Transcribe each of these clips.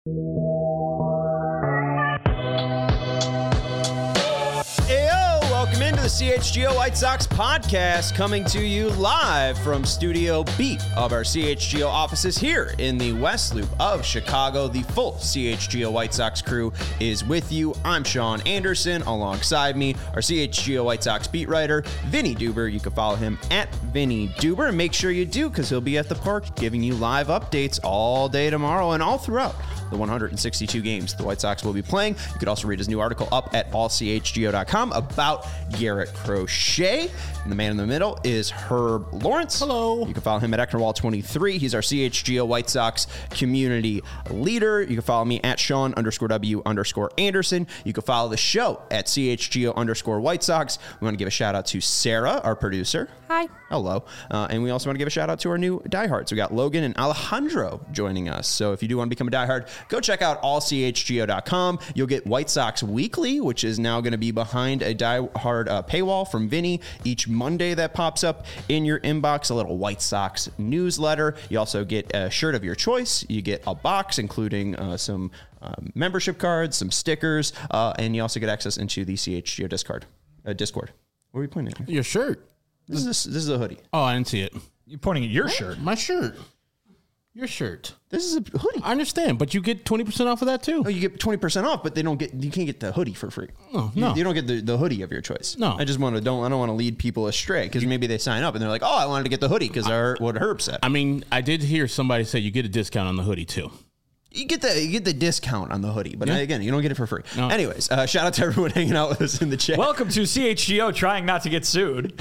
Welcome into the CHGO White Sox podcast, coming to you live from Studio B of our CHGO offices here in the West Loop of Chicago. The full CHGO White Sox crew is with you. I'm Sean Anderson. Alongside me, our CHGO White Sox beat writer, Vinny Duber. You can follow him at Vinny Duber, and make sure you do, because he'll be at the park giving you live updates all day tomorrow and all throughout the 162 games the White Sox will be playing. You could also read his new article up at allchgo.com about Garrett Crochet. And the man in the middle is Herb Lawrence. Hello. You can follow him at Ecknerwall23. He's our CHGO White Sox community leader. You can follow me at Sean_W_Anderson. You can follow the show at CHGO_White Sox. We want to give a shout out to Sarah, our producer. Hi. Hello. And we also want to give a shout out to our new diehards. We got Logan and Alejandro joining us. So if you do want to become a diehard, go check out allchgo.com. You'll get White Sox Weekly, which is now going to be behind a diehard paywall from Vinny each Monday that pops up in your inbox, a little White Sox newsletter. You also get a shirt of your choice. You get a box, including some membership cards, some stickers, and you also get access into the CHGO Discord. What are we pointing at? Your shirt. This is a hoodie. Oh, I didn't see it. You're pointing at your shirt. My shirt. Your shirt. This is a hoodie. I understand, but you get 20% off of that too. Oh, you get 20% off, but you can't get the hoodie for free. Oh, no. You don't get the hoodie of your choice. No. I don't want to lead people astray, because maybe they sign up and they're like, oh, I wanted to get the hoodie because I heard what Herb said. I mean, I did hear somebody say you get a discount on the hoodie too. You get the discount on the hoodie, but again, you don't get it for free. No. Anyways, shout out to everyone hanging out with us in the chat. Welcome to CHGO, trying not to get sued.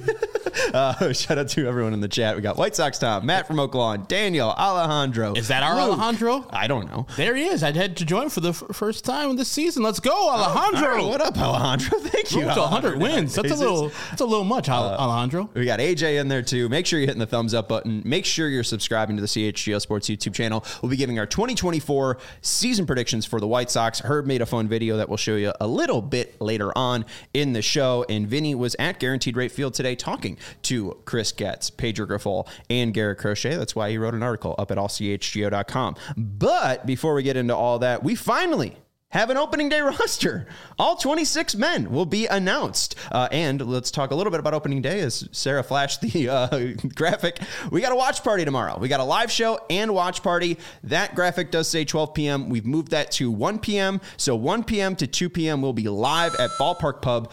Shout out to everyone in the chat. We got White Sox Tom, Matt from Oak Lawn, Daniel, Alejandro. Is that our Luke. Alejandro? I don't know. There he is. I had to join for the first time this season. Let's go, Alejandro. All right, what up, Alejandro? Thank you. To 100 wins. That's a little much, Alejandro. We got AJ in there too. Make sure you're hitting the thumbs up button. Make sure you're subscribing to the CHGO Sports YouTube channel. We'll be giving our 2024 season predictions for the White Sox. Herb made a fun video that we'll show you a little bit later on in the show. And Vinny was at Guaranteed Rate Field today talking to Chris Getz, Pedro Grifol, and Garrett Crochet. That's why he wrote an article up at allchgo.com. But before we get into all that, we finally have an opening day roster. All 26 men will be announced. And let's talk a little bit about opening day as Sarah flashed the graphic. We got a watch party tomorrow. We got a live show and watch party. That graphic does say 12 p.m. We've moved that to 1 p.m. So 1 p.m. to 2 p.m. we'll be live at Ballpark Pub,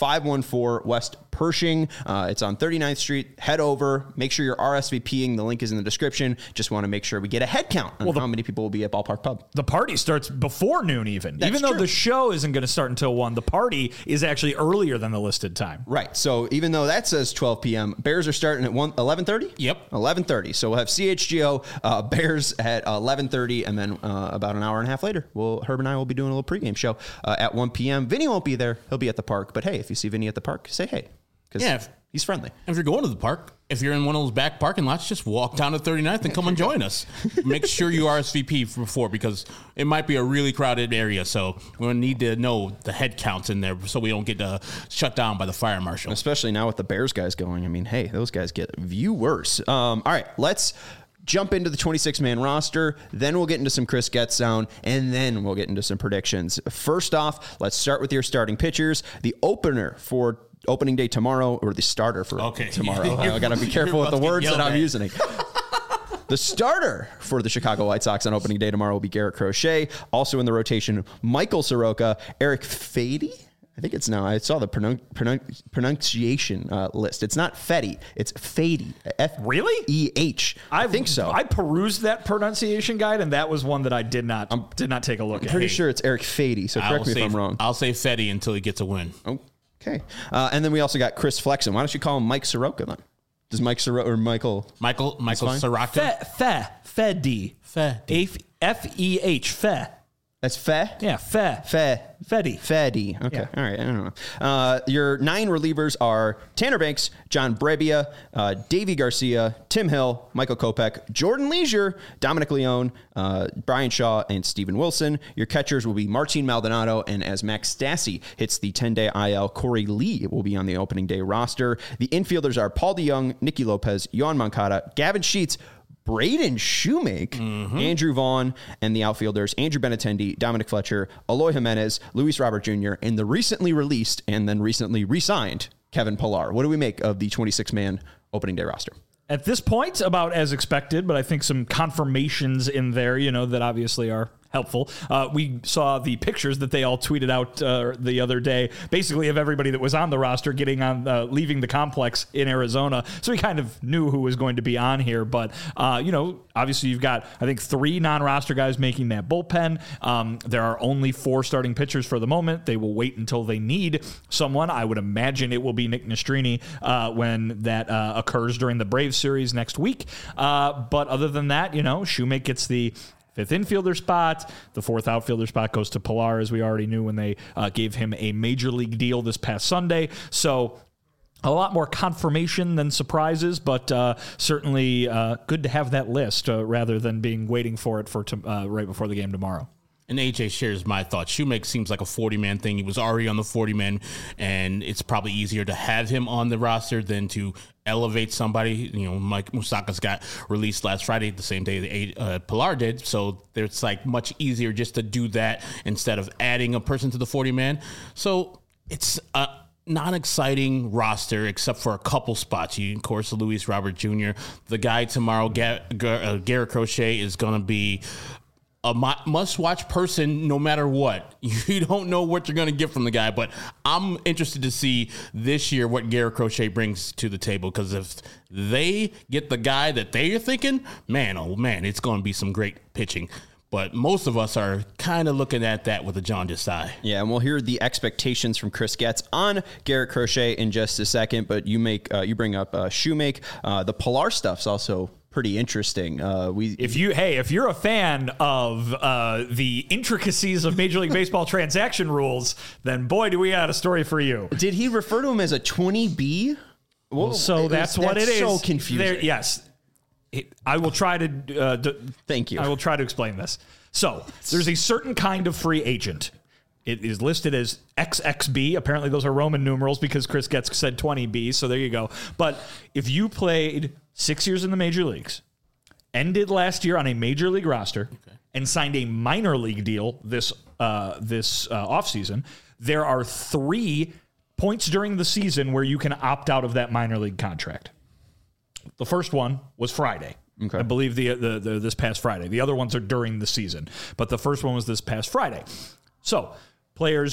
514 West Pershing. It's on 39th Street. Head over. Make sure you're RSVPing. The link is in the description. Just want to make sure we get a head count on how many people will be at Ballpark Pub. The party starts before noon even. That's even though true. the show isn't going to start until 1, the party is actually earlier than the listed time. Right. So even though that says 12 p.m., Bears are starting at 11:30? Yep. 11:30. So we'll have CHGO Bears at 11:30, and then about an hour and a half later, Herb and I will be doing a little pregame show at 1 p.m. Vinny won't be there. He'll be at the park. But hey, if you see Vinny at the park, say hey. Because he's friendly. If you're going to the park, if you're in one of those back parking lots, just walk down to 39th and come and join us. Make sure you RSVP before, because it might be a really crowded area. So we're going to need to know the head counts in there so we don't get shut down by the fire marshal. Especially now with the Bears guys going. I mean, hey, those guys get viewers. All right, let's jump into the 26-man roster. Then we'll get into some Chris Getz sound, and then we'll get into some predictions. First off, let's start with your starting pitchers. The opener for opening day tomorrow, or the starter for tomorrow. I got to be careful with the words that I'm using. The starter for the Chicago White Sox on opening day tomorrow will be Garrett Crochet. Also in the rotation, Michael Soroka, Eric Fedde. I think it's now. I saw the pronunciation list. It's not Fetty. It's Fady. Really? F-E-H. I think so. I perused that pronunciation guide, and that was one that I did not take a look at. I'm pretty sure it's Eric Fady, so correct me if I'm wrong. I'll say Fetty until he gets a win. Okay. And then we also got Chris Flexen. Why don't you call him Mike Soroka then? Does Mike Soroka or Michael Soroka? Feddy. F-E-H. Fe. That's Fe? Yeah, Feddy. Okay. Yeah. All right. I don't know. Your 9 relievers are Tanner Banks, John Brebbia, Davey Garcia, Tim Hill, Michael Kopech, Jordan Leisure, Dominic Leone, Brian Shaw, and Steven Wilson. Your catchers will be Martin Maldonado, and as Max Stassi hits the 10-day IL, Corey Lee will be on the opening day roster. The infielders are Paul DeYoung, Nicky Lopez, Yohan Moncada, Gavin Sheets, Braden Shoemake, Andrew Vaughn, and the outfielders Andrew Benintendi, Dominic Fletcher, Eloy Jimenez, Luis Robert Jr., and the recently released and then recently re-signed Kevin Pillar. What do we make of the 26-man opening day roster? At this point, about as expected, but I think some confirmations in there, that obviously are helpful. We saw the pictures that they all tweeted out the other day, basically of everybody that was on the roster getting on, leaving the complex in Arizona. So we kind of knew who was going to be on here. But, obviously you've got, I think, 3 non-roster guys making that bullpen. There are only 4 starting pitchers for the moment. They will wait until they need someone. I would imagine it will be Nick Nastrini when that occurs during the Braves series next week. But other than that, Shoemake gets the 5th infielder spot. The 4th outfielder spot goes to Pillar, as we already knew when they gave him a major league deal this past Sunday. So a lot more confirmation than surprises, but certainly good to have that list rather than waiting for it for right before the game tomorrow. And AJ shares my thoughts. Shoemake seems like a 40-man thing. He was already on the 40-man, and it's probably easier to have him on the roster than to elevate somebody. Mike Moustakas got released last Friday, the same day Pillar did. So it's like much easier just to do that instead of adding a person to the 40-man. So it's a non-exciting roster except for a couple spots. Of course, Luis Robert Jr. The guy tomorrow, Garrett Crochet, is going to be a must-watch person no matter what. You don't know what you're going to get from the guy, but I'm interested to see this year what Garrett Crochet brings to the table, because if they get the guy that they're thinking, man, oh man, it's going to be some great pitching. But most of us are kind of looking at that with a jaundiced eye. Yeah, and we'll hear the expectations from Chris Getz on Garrett Crochet in just a second, but you bring up Shoemake. The Pillar stuff's also pretty interesting. If you're a fan of the intricacies of Major League Baseball transaction rules, then boy, do we have a story for you. Did he refer to him as a 20B? Well, so that's what it is. So confusing. Yes. I will try to thank you. I will try to explain this. So there's a certain kind of free agent. It is listed as XXB. Apparently those are Roman numerals because Chris Getz said 20B. So there you go. But if you played 6 years in the major leagues, ended last year on a major league roster, and signed a minor league deal this offseason, there are 3 points during the season where you can opt out of that minor league contract. The first one was Friday. Okay. I believe the this past Friday. The other ones are during the season, but the first one was this past Friday. So players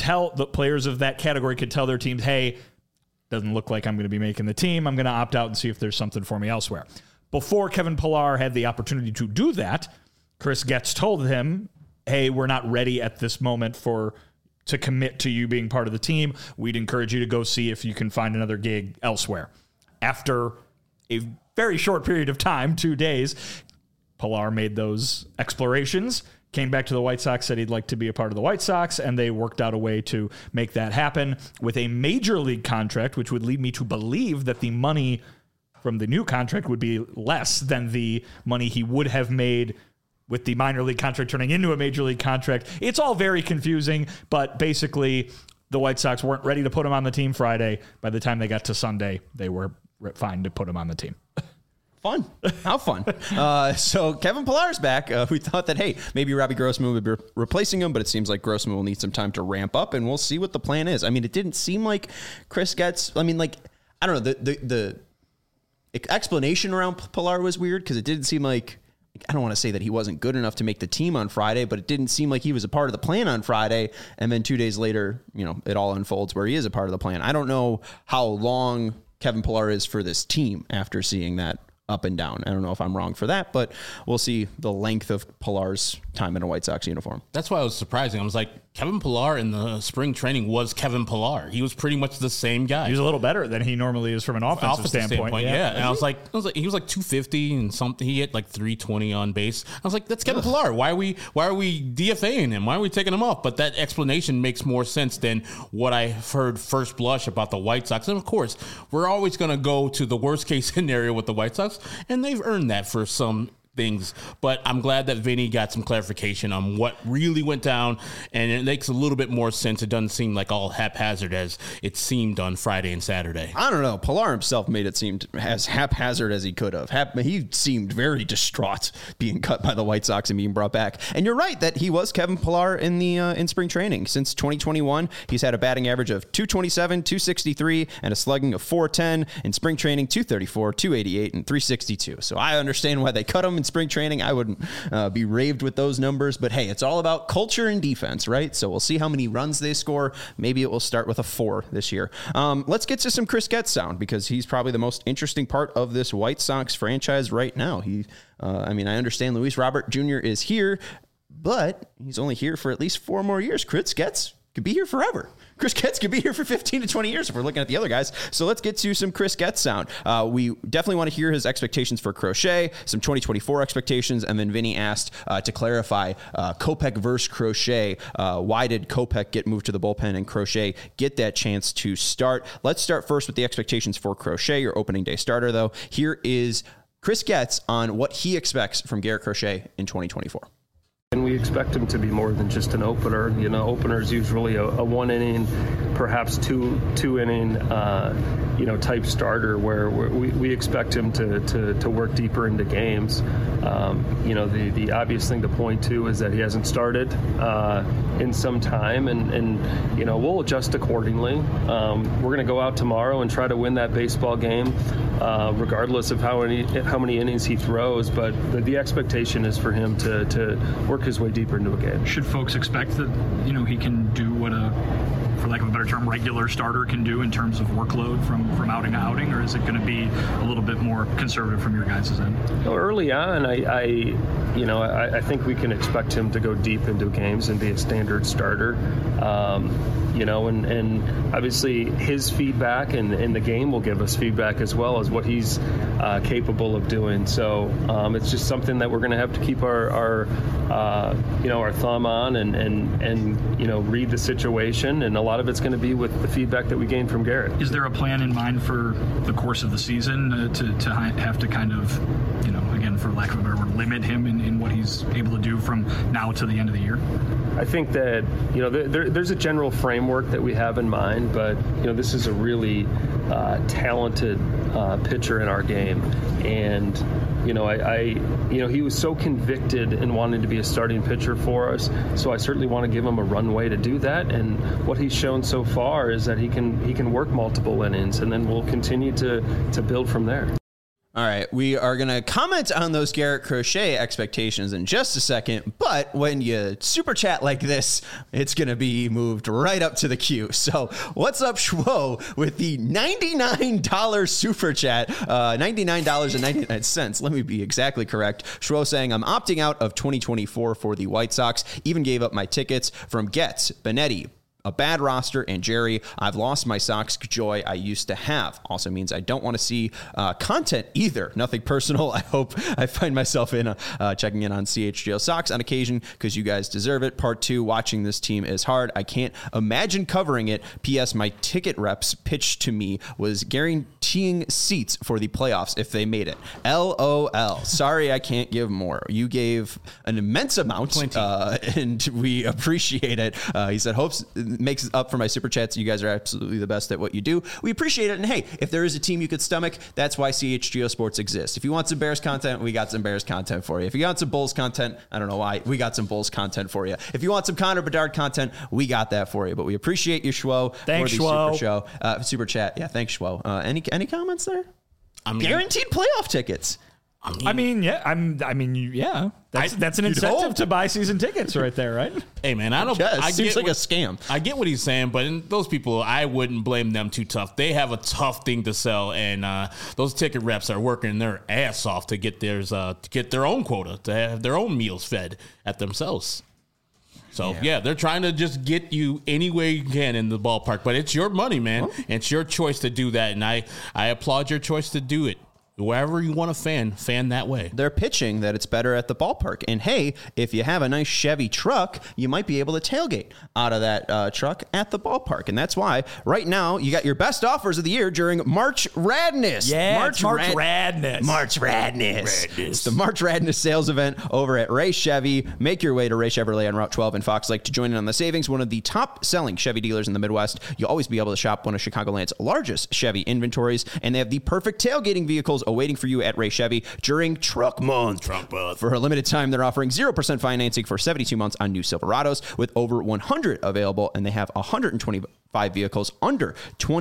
of that category could tell their teams, hey, doesn't look like I'm going to be making the team. I'm going to opt out and see if there's something for me elsewhere. Before Kevin Pillar had the opportunity to do that, Chris Getz told him, hey, we're not ready at this moment to commit to you being part of the team. We'd encourage you to go see if you can find another gig elsewhere. After a very short period of time, 2 days, Pillar made those explorations, came back to the White Sox, said he'd like to be a part of the White Sox, and they worked out a way to make that happen with a major league contract, which would lead me to believe that the money from the new contract would be less than the money he would have made with the minor league contract turning into a major league contract. It's all very confusing, but basically the White Sox weren't ready to put him on the team Friday. By the time they got to Sunday, they were fine to put him on the team. Fun. How fun. So Kevin Pillar's back. We thought that, hey, maybe Robbie Grossman would be replacing him, but it seems like Grossman will need some time to ramp up, and we'll see what the plan is. I mean, it didn't seem like Chris Getz, I don't know, the explanation around Pillar was weird, because it didn't seem like, I don't want to say that he wasn't good enough to make the team on Friday, but it didn't seem like he was a part of the plan on Friday. And then 2 days later, it all unfolds where he is a part of the plan. I don't know how long Kevin Pillar is for this team after seeing that up and down. I don't know if I'm wrong for that, but we'll see the length of Pillar's time in a White Sox uniform. That's why it was surprising. I was like, Kevin Pillar in the spring training was Kevin Pillar. He was pretty much the same guy. He was a little better than he normally is from an offensive standpoint. Yeah. And I was like, he was like 250 and something. He hit like 320 on base. I was like, that's Kevin Pillar. Why are we DFAing him? Why are we taking him off? But that explanation makes more sense than what I heard first blush about the White Sox. And of course, we're always going to go to the worst case scenario with the White Sox, and they've earned that for some things, but I'm glad that Vinny got some clarification on what really went down, and it makes a little bit more sense. It doesn't seem like all haphazard as it seemed on Friday and Saturday. I don't know. Pilar himself made it seem as haphazard as he could have. He seemed very distraught being cut by the White Sox and being brought back. And you're right that he was Kevin Pilar in the in spring training. Since 2021, he's had a batting average of 227, 263, and a slugging of 410. In spring training, 234, 288, and 362. So I understand why they cut him in spring training. I wouldn't be raved with those numbers, but hey, it's all about culture and defense, right? So we'll see how many runs they score. Maybe it will start with a 4 this year. Let's get to some Chris Getz sound, because he's probably the most interesting part of this White Sox franchise right now. I understand Luis Robert Jr. is here, but he's only here for at least 4 more years. Chris Getz could be here forever. Chris Getz could be here for 15 to 20 years if we're looking at the other guys. So let's get to some Chris Getz sound. We definitely want to hear his expectations for Crochet, some 2024 expectations, and then Vinny asked to clarify Kopech versus Crochet. Why did Kopech get moved to the bullpen and Crochet get that chance to start? Let's start first with the expectations for Crochet, your opening day starter, though. Here is Chris Getz on what he expects from Garrett Crochet in 2024. And we expect him to be more than just an opener. You know, opener is usually a 1 inning, perhaps two inning, type starter where we expect him to work deeper into games. The obvious thing to point to is that he hasn't started in some time, and we'll adjust accordingly. We're going to go out tomorrow and try to win that baseball game, regardless of how many innings he throws. But the expectation is for him to work his way deeper into a game. Should folks expect that he can do what for lack of a better term, regular starter can do in terms of workload from outing to outing, or is it going to be a little bit more conservative from your guys' end? Early on, I think we can expect him to go deep into games and be a standard starter. And obviously his feedback and the game will give us feedback as well as what he's capable of doing. So it's just something that we're going to have to keep our thumb on and read the situation. And a lot of it's going to be with the feedback that we gain from Garrett. Is there a plan in mind for the course of the season to have to kind of, again, for lack of a better word, limit him in what he's able to do from now to the end of the year? I think that, there's a general framework that we have in mind, but, this is a really talented pitcher in our game. And, he was so convicted in wanting to be a starting pitcher for us. So I certainly want to give him a runway to do that. And what he's shown so far is that he can work multiple innings, and then we'll continue to build from there. All right, we are going to comment on those Garrett Crochet expectations in just a second, but when you super chat like this, it's going to be moved right up to the queue. So what's up, Schwo, with the $99 super chat, $99.99. Let me be exactly correct. Schwo saying, I'm opting out of 2024 for the White Sox, even gave up my tickets from Getz, Benetti, a bad roster, and Jerry. I've lost my Sox joy I used to have. Also means I don't want to see content either. Nothing personal. I hope I find myself in checking in on CHGO Sox on occasion because you guys deserve it. Part 2, watching this team is hard. I can't imagine covering it. P.S. My ticket reps pitched to me was guaranteeing seats for the playoffs if they made it. LOL. Sorry, I can't give more. You gave an immense amount, and we appreciate it. He said, hopes makes up for my super chats. You guys are absolutely the best at what you do. We appreciate it. And hey, if there is a team you could stomach, that's why CHGO Sports exists. If you want some Bears content, we got some Bears content for you. If you want some Bulls content, I don't know why, we got some Bulls content for you. If you want some Connor Bedard content, we got that for you. But we appreciate you, Schwo. Thanks, Schwo. Super chat. Yeah, thanks, Schwo. Any comments there? Guaranteed playoff tickets. Yeah. That's an incentive to buy season tickets right there, right? Hey, man, I don't. Yeah, it seems like a scam. I get what he's saying, but those people, I wouldn't blame them too tough. They have a tough thing to sell, and those ticket reps are working their ass off to get theirs, to get their own quota, to have their own meals fed at themselves. So, yeah, they're trying to just get you any way you can in the ballpark, but it's your money, man. It's your choice to do that, and I applaud your choice to do it. Wherever you want to fan that way. They're pitching that it's better at the ballpark. And hey, if you have a nice Chevy truck, you might be able to tailgate out of that truck at the ballpark. And that's why right now you got your best offers of the year during March Radness. Yeah, March Radness. March Radness. It's the March Radness sales event over at Ray Chevy. Make your way to Ray Chevrolet on Route 12 in Fox Lake to join in on the savings. One of the top selling Chevy dealers in the Midwest. You'll always be able to shop one of Chicagoland's largest Chevy inventories. And they have the perfect tailgating vehicles awaiting for you at Ray Chevy during Truck Month. For a limited time, they're offering 0% financing for 72 months on new Silverados with over 100 available, and they have 125 vehicles under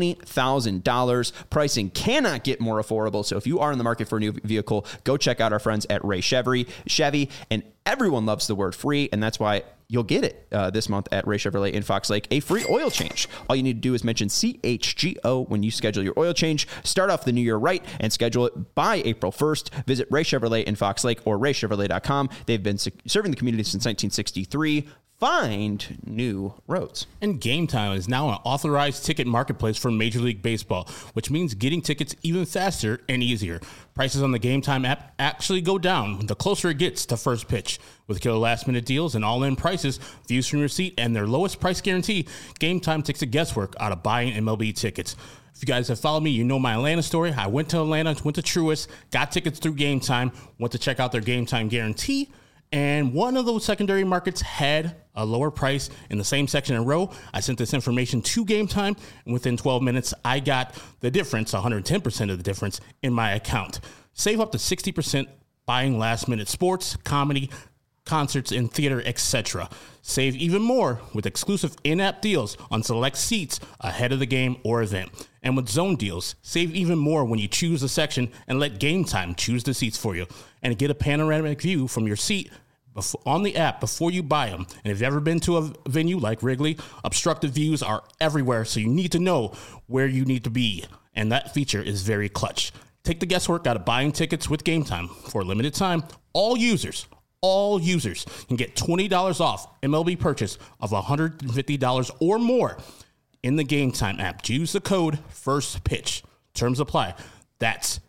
$20,000. Pricing cannot get more affordable. So if you are in the market for a new vehicle, go check out our friends at Ray Chevy. And everyone loves the word free, and that's why you'll get it this month at Ray Chevrolet in Fox Lake, a free oil change. All you need to do is mention CHGO when you schedule your oil change. Start off the new year right and schedule it by April 1st. Visit Ray Chevrolet in Fox Lake or raychevrolet.com. They've been serving the community since 1963. Find new roads. And Game Time is now an authorized ticket marketplace for Major League Baseball, which means getting tickets even faster and easier. Prices on the Game Time app actually go down the closer it gets to first pitch. With killer last-minute deals and all-in prices, views from your seat, and their lowest price guarantee, Game Time takes the guesswork out of buying MLB tickets. If you guys have followed me, you know my Atlanta story. I went to Atlanta, went to Truist, got tickets through Game Time, went to check out their Game Time guarantee, and one of those secondary markets had a lower price in the same section and row. I sent this information to Game Time, and within 12 minutes, I got the difference, 110% of the difference, in my account. Save up to 60% buying last-minute sports, comedy, concerts, and theater, etc. Save even more with exclusive in-app deals on select seats ahead of the game or event. And with zone deals, save even more when you choose a section and let Game Time choose the seats for you. And get a panoramic view from your seat on the app before you buy them. And if you've ever been to a venue like Wrigley, obstructed views are everywhere, so you need to know where you need to be. And that feature is very clutch. Take the guesswork out of buying tickets with Game Time. For a limited time, all users can get $20 off MLB purchase of $150 or more in the Game Time app. Use the code FIRSTPITCH. Terms apply. That's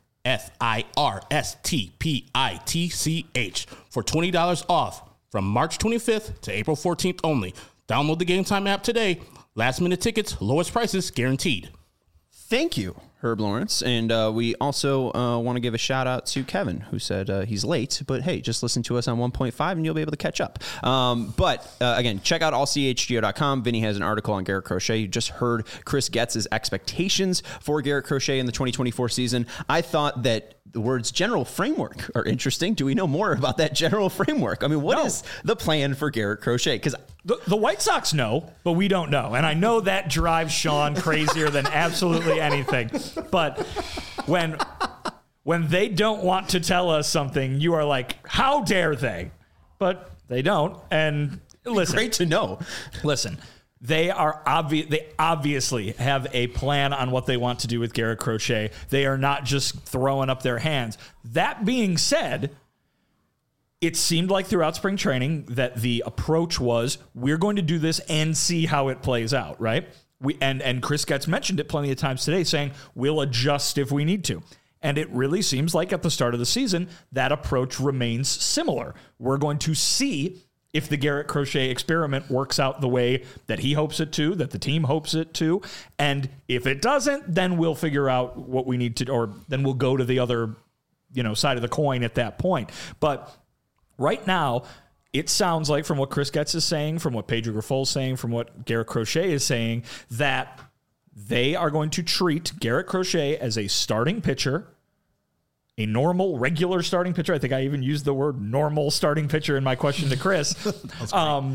FIRSTPITCH for $20 off from March 25th to April 14th only. Download the Game Time app today. Last minute tickets, lowest prices guaranteed. Thank you, Herb Lawrence. And we also want to give a shout out to Kevin, who said he's late, but hey, just listen to us on 1.5 and you'll be able to catch up. But again, check out allchgo.com. Vinny has an article on Garrett Crochet. You just heard Chris Getz's expectations for Garrett Crochet in the 2024 season. I thought that the words general framework are interesting. Do we know more about that general framework? I mean, what is the plan for Garrett Crochet? Because the White Sox know, but we don't know. And I know that drives Sean crazier than absolutely anything. But when they don't want to tell us something, you are like, how dare they? But they don't. And listen. Great to know. Listen. They obviously have a plan on what they want to do with Garrett Crochet. They are not just throwing up their hands. That being said, it seemed like throughout spring training that the approach was, we're going to do this and see how it plays out, right? And Chris Getz mentioned it plenty of times today, saying we'll adjust if we need to. And it really seems like at the start of the season, that approach remains similar. We're going to see if the Garrett Crochet experiment works out the way that he hopes it to, that the team hopes it to. And if it doesn't, then we'll figure out what we need to, or then we'll go to the other, side of the coin at that point. But right now, it sounds like from what Chris Getz is saying, from what Pedro Grifol is saying, from what Garrett Crochet is saying, that they are going to treat Garrett Crochet as a starting pitcher, a normal, regular starting pitcher. I think I even used the word normal starting pitcher in my question to Chris. And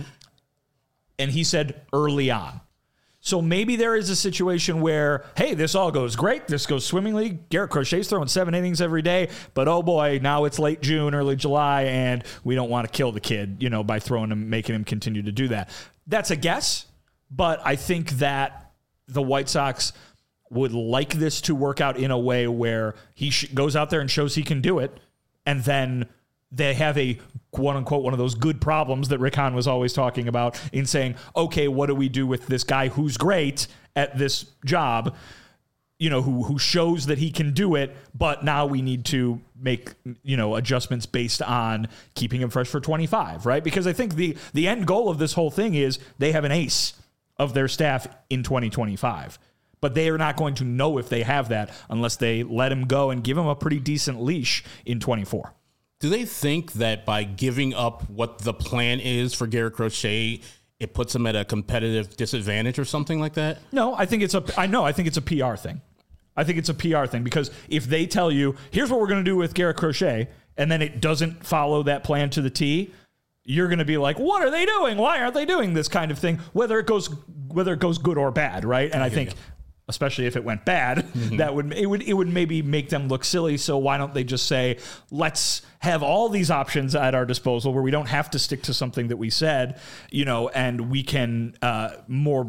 he said early on. So maybe there is a situation where, hey, this all goes great. This goes swimmingly. Garrett Crochet's throwing 7 innings every day. But, oh, boy, now it's late June, early July, and we don't want to kill the kid, by throwing him, making him continue to do that. That's a guess. But I think that the White Sox would like this to work out in a way where he goes out there and shows he can do it, and then they have a quote-unquote one of those good problems that Rick Hahn was always talking about in saying, okay, what do we do with this guy who's great at this job? who shows that he can do it, but now we need to make, adjustments based on keeping him fresh for 25, right? Because I think the end goal of this whole thing is they have an ace of their staff in 2025, but they are not going to know if they have that unless they let him go and give him a pretty decent leash in 24. Do they think that by giving up what the plan is for Garrett Crochet, it puts him at a competitive disadvantage or something like that? No, I think it's a PR thing. I think it's a PR thing because if they tell you, here's what we're going to do with Garrett Crochet, and then it doesn't follow that plan to the T, you're going to be like, what are they doing? Why aren't they doing this kind of thing? Whether it goes good or bad, right? And I think, especially if it went bad, that would maybe make them look silly. So why don't they just say, let's have all these options at our disposal where we don't have to stick to something that we said, and we can more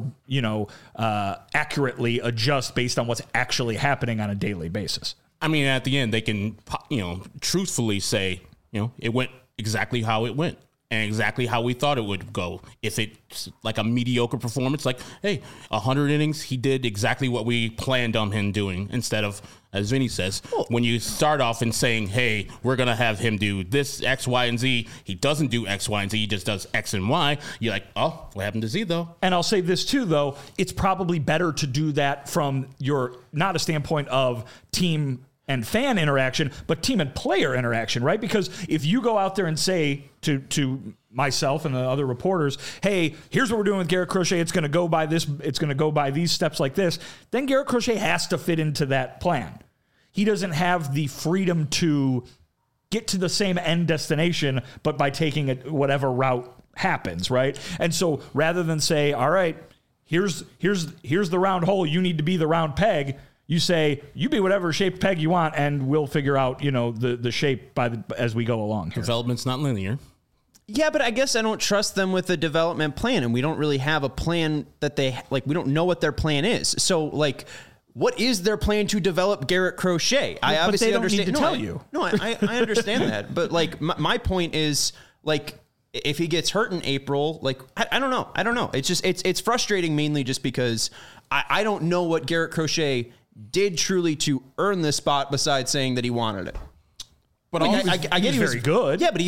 accurately adjust based on what's actually happening on a daily basis. I mean, at the end, they can, truthfully say, it went exactly how it went. And exactly how we thought it would go. If it's like a mediocre performance, like, hey, 100 innings, he did exactly what we planned on him doing. Instead of, as Vinny says, when you start off and saying, hey, we're going to have him do this, X, Y, and Z. He doesn't do X, Y, and Z. He just does X and Y. You're like, oh, what happened to Z, though? And I'll say this, too, though. It's probably better to do that from not a standpoint of team and fan interaction, but team and player interaction, right? Because if you go out there and say to myself and the other reporters, hey, here's what we're doing with Garrett Crochet, it's going to go by this, it's going to go by these steps like this, then Garrett Crochet has to fit into that plan. He doesn't have the freedom to get to the same end destination, but by taking whatever route happens, right? And so rather than say, all right, here's the round hole, you need to be the round peg, you say, you be whatever shaped peg you want, and we'll figure out, the shape as we go along here. Development's not linear. Yeah, but I guess I don't trust them with a development plan, and we don't really have a plan that we don't know what their plan is. So, what is their plan to develop Garrett Crochet? I obviously understand. Need to tell you. No, I understand that. But, my point is, if he gets hurt in April, I don't know. I don't know. It's just, it's frustrating mainly just because I don't know what Garrett Crochet did truly to earn this spot besides saying that he wanted it. But I get he was very good. Yeah, but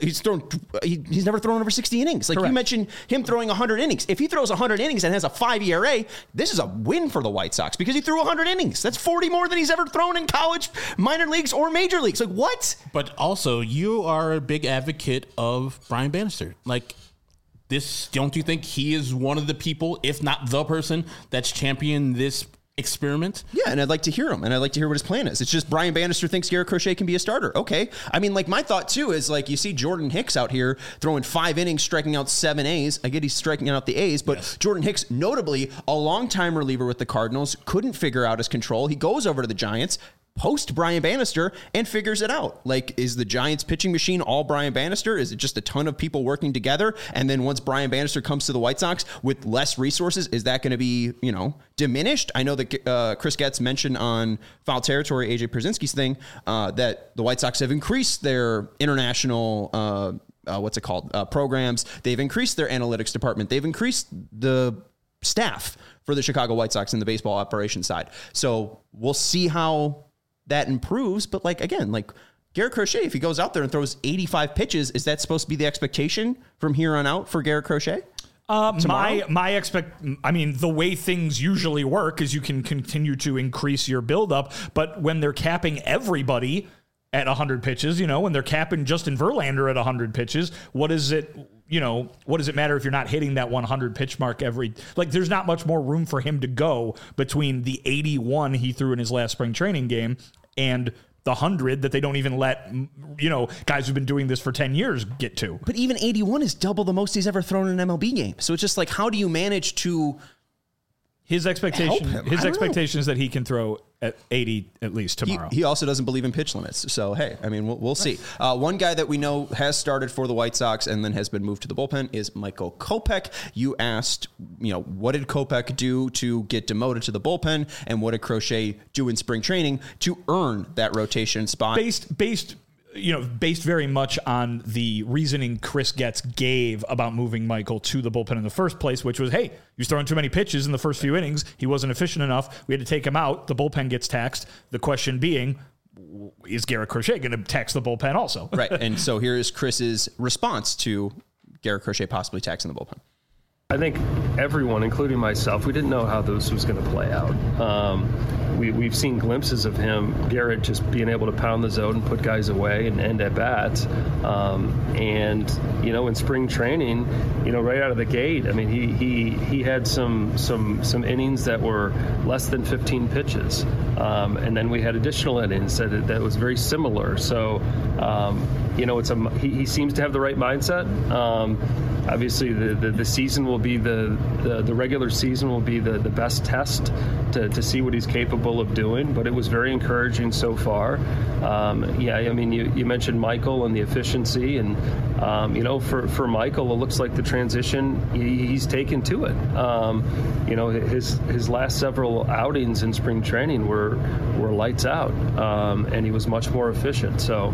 he's never thrown over 60 innings. Correct. You mentioned him throwing 100 innings. If he throws 100 innings and has a 5 ERA, this is a win for the White Sox because he threw 100 innings. That's 40 more than he's ever thrown in college, minor leagues, or major leagues. What? But also, you are a big advocate of Brian Bannister. Don't you think he is one of the people, if not the person, that's championed this experiment? Yeah, and I'd like to hear him, and I'd like to hear what his plan is. It's just Brian Bannister thinks Garrett Crochet can be a starter. Okay. I mean, my thought, too, is, you see Jordan Hicks out here throwing 5 innings, striking out 7 A's. I get he's striking out the A's, but yes. Jordan Hicks, notably a longtime reliever with the Cardinals, couldn't figure out his control. He goes over to the Giants, post Brian Bannister, and figures it out. Is the Giants pitching machine all Brian Bannister? Is it just a ton of people working together? And then once Brian Bannister comes to the White Sox with less resources, is that going to be, diminished? I know that Chris Getz mentioned on Foul Territory, AJ Pierzynski's thing, that the White Sox have increased their international, programs. They've increased their analytics department. They've increased the staff for the Chicago White Sox in the baseball operations side. So we'll see how that improves, but Garrett Crochet, if he goes out there and throws 85 pitches, is that supposed to be the expectation from here on out for Garrett Crochet? The way things usually work is you can continue to increase your buildup, but when they're capping everybody at 100 pitches, when they're capping Justin Verlander at 100 pitches, what does it matter if you're not hitting that 100 pitch mark there's not much more room for him to go between the 81 he threw in his last spring training game and the 100 that they don't even let, guys who've been doing this for 10 years get to. But even 81 is double the most he's ever thrown in an MLB game. So it's just how do you manage to... His expectation is that he can throw at 80 at least tomorrow. He also doesn't believe in pitch limits. So, hey, we'll see. One guy that we know has started for the White Sox and then has been moved to the bullpen is Michael Kopech. You asked, what did Kopech do to get demoted to the bullpen, and what did Crochet do in spring training to earn that rotation spot? Based based very much on the reasoning Chris Getz gave about moving Michael to the bullpen in the first place, which was, hey, he was throwing too many pitches in the first few innings. He wasn't efficient enough. We had to take him out. The bullpen gets taxed. The question being, is Garrett Crochet going to tax the bullpen also? Right. And so here is Chris's response to Garrett Crochet possibly taxing the bullpen. I think everyone, including myself, we didn't know how this was going to play out. We've seen glimpses of him, Garrett, just being able to pound the zone and put guys away and end at bats. And in spring training, right out of the gate, I mean, he had some innings that were less than 15 pitches, and then we had additional innings that was very similar. So, he seems to have the right mindset. Obviously, the season will be the regular season will be the best test to see what he's capable of doing. But it was very encouraging so far. You mentioned Michael and the efficiency, and for Michael, it looks like the transition he's taken to it. His last several outings in spring training were lights out, and he was much more efficient. So.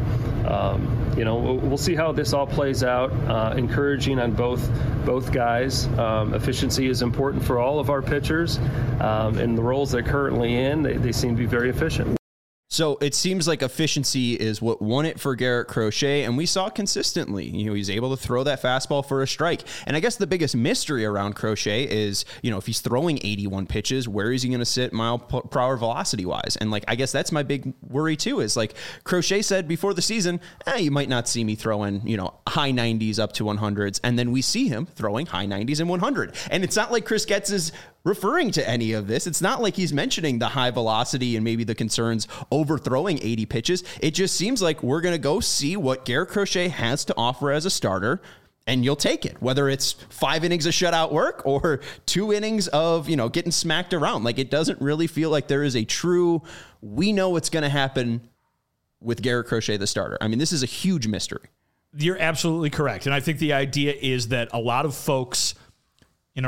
We'll see how this all plays out. Encouraging on both guys. Efficiency is important for all of our pitchers. In the roles they're currently in, they seem to be very efficient. So it seems like efficiency is what won it for Garrett Crochet, and we saw consistently, he's able to throw that fastball for a strike. And I guess the biggest mystery around Crochet is, if he's throwing 81 pitches, where is he going to sit mile per hour velocity wise? And I guess that's my big worry too, is Crochet said before the season, you might not see me throwing, high 90s up to 100s. And then we see him throwing high 90s and 100. And it's not like Chris Getz is referring to any of this. It's not like he's mentioning the high velocity and maybe the concerns overthrowing 80 pitches. It just seems like we're going to go see what Garrett Crochet has to offer as a starter, and you'll take it, whether it's 5 innings of shutout work or 2 innings of, getting smacked around. It doesn't really feel like there is a true, we know what's going to happen with Garrett Crochet, the starter. I mean, this is a huge mystery. You're absolutely correct. And I think the idea is that a lot of folks in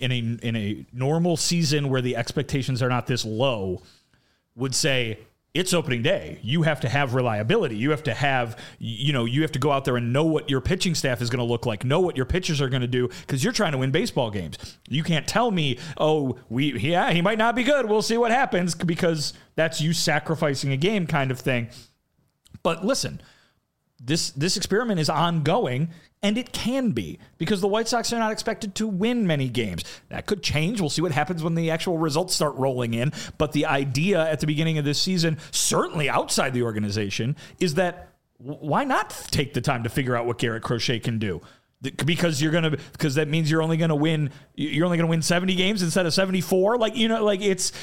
a normal season where the expectations are not this low would say, it's opening day. You have to have reliability. You have to have, you have to go out there and know what your pitching staff is going to look like, know what your pitchers are going to do, because you're trying to win baseball games. You can't tell me, he might not be good. We'll see what happens, because that's you sacrificing a game kind of thing. But listen, this experiment is ongoing, and it can be, because the White Sox are not expected to win many games. That could change. We'll see what happens when the actual results start rolling in. But the idea at the beginning of this season, certainly outside the organization, is that why not take the time to figure out what Garrett Crochet can do? Because that means you're only going to win 70 games instead of 74. It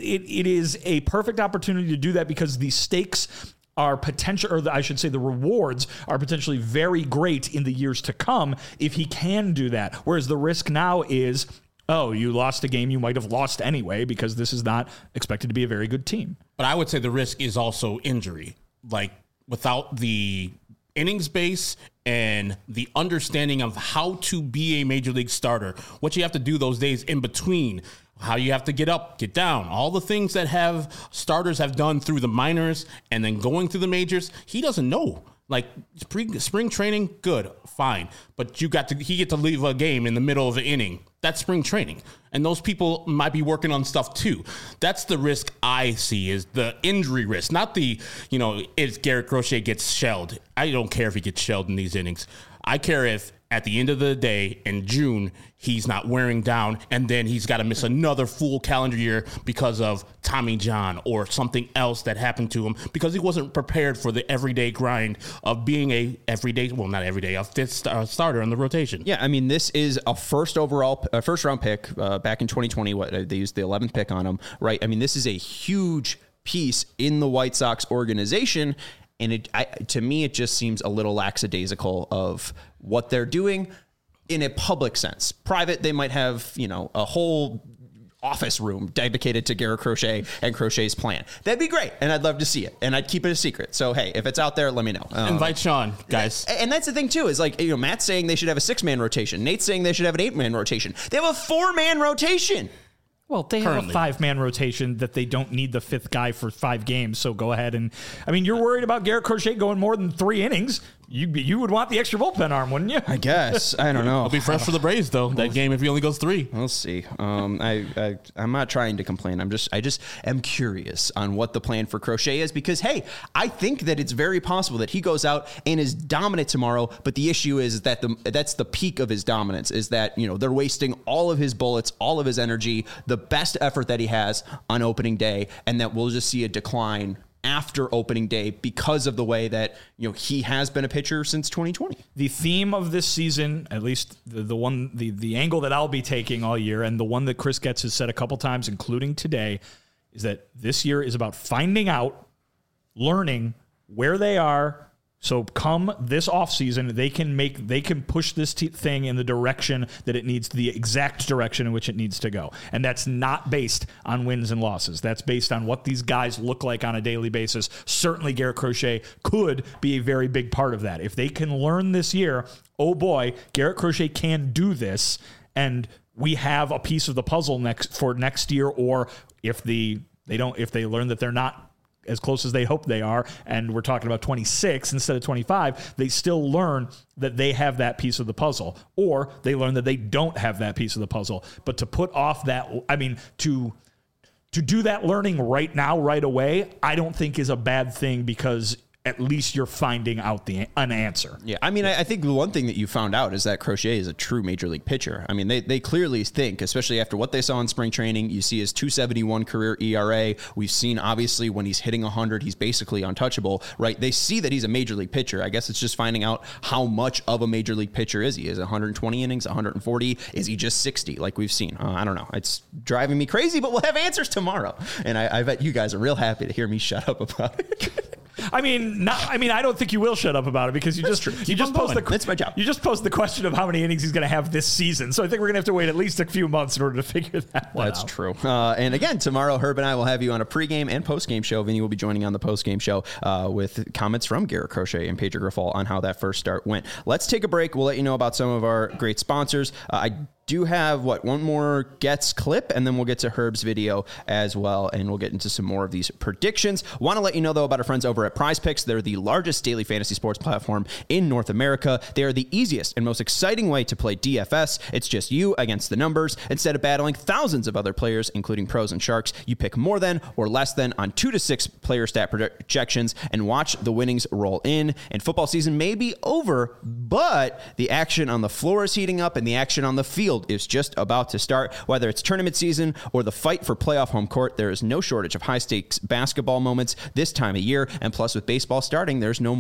is a perfect opportunity to do that, because the stakes are potential, or I should say the rewards are potentially very great in the years to come if he can do that. Whereas the risk now is, you lost a game you might have lost anyway, because this is not expected to be a very good team. But I would say the risk is also injury. Without the innings base and the understanding of how to be a major league starter, what you have to do those days in between, how you have to get up, get down, all the things that starters have done through the minors and then going through the majors, he doesn't know. Spring training, good, fine. But he get to leave a game in the middle of the inning. That's spring training. And those people might be working on stuff too. That's the risk I see, is the injury risk, not the, if Garrett Crochet gets shelled. I don't care if he gets shelled in these innings. I care if at the end of the day in June, he's not wearing down, and then he's got to miss another full calendar year because of Tommy John or something else that happened to him, because he wasn't prepared for the everyday grind of being a fifth starter on the rotation. Yeah, I mean, this is a first round pick back in 2020. They used the 11th pick on him, right? I mean, this is a huge piece in the White Sox organization. And to me, it just seems a little lackadaisical of what they're doing in a public sense. Private, they might have, a whole office room dedicated to Garrett Crochet and Crochet's plan. That'd be great. And I'd love to see it. And I'd keep it a secret. So, hey, if it's out there, let me know. Invite Sean, guys. And that's the thing, too, is Matt's saying they should have a 6-man rotation. Nate's saying they should have an 8-man rotation. They have a 4-man rotation. Well, they have a 5-man rotation that they don't need the 5th guy for 5 games. So go ahead and, I mean, you're worried about Garrett Crochet going more than 3 innings. You would want the extra bullpen arm, wouldn't you? I guess. I don't know. I'll be fresh for the Braves though. That game if he only goes 3. We'll see. I'm not trying to complain. I just am curious on what the plan for Crochet is because, hey, I think that it's very possible that he goes out and is dominant tomorrow. But the issue is that that's the peak of his dominance is that, they're wasting all of his bullets, all of his energy, the best effort that he has on opening day, and that we'll just see a decline after opening day because of the way that he has been a pitcher since 2020. The theme of this season, at least the angle that I'll be taking all year, and the one that Chris Getz has said a couple times, including today, is that this year is about finding out, learning where they are. So come this offseason, they can push this thing in the direction that it needs, the exact direction in which it needs to go. And that's not based on wins and losses. That's based on what these guys look like on a daily basis. Certainly Garrett Crochet could be a very big part of that. If they can learn this year, oh boy, Garrett Crochet can do this, and we have a piece of the puzzle next year, or if they learn that they're not as close as they hope they are, and we're talking about 26 instead of 25, they still learn that they have that piece of the puzzle, or they learn that they don't have that piece of the puzzle. But to put off that, to do that learning right now, right away, I don't think is a bad thing because at least you're finding out an answer. Yeah, I think the one thing that you found out is that Crochet is a true major league pitcher. They clearly think, especially after what they saw in spring training, you see his 2.71 career ERA. We've seen, obviously, when he's hitting 100, he's basically untouchable, right? They see that he's a major league pitcher. I guess it's just finding out how much of a major league pitcher is he? Is it 120 innings, 140? Is he just 60 like we've seen? I don't know. It's driving me crazy, but we'll have answers tomorrow. And I bet you guys are real happy to hear me shut up about it. I don't think you will shut up about it because you just posed That's my job. You just posed the question of how many innings he's going to have this season. So I think we're going to have to wait at least a few months in order to figure that one out. That's true. And again, tomorrow, Herb and I will have you on a pregame and postgame show. Vinny will be joining on the postgame show with comments from Garrett Crochet and Pedro Grifol on how that first start went. Let's take a break. We'll let you know about some of our great sponsors. I do have one more Getz clip, and then we'll get to Herb's video as well, and we'll get into some more of these predictions. Want to let you know, though, about our friends over at Prize Picks. They're the largest daily fantasy sports platform in North America. They are the easiest and most exciting way to play DFS. It's just you against the numbers. Instead of battling thousands of other players, including pros and sharks, you pick more than or less than on 2 to 6 player stat projections and watch the winnings roll in. And football season may be over, but the action on the floor is heating up, and the action on the field is just about to start. Whether it's tournament season or the fight for playoff home court, there is no shortage of high-stakes basketball moments this time of year. And plus, with baseball starting, there's there's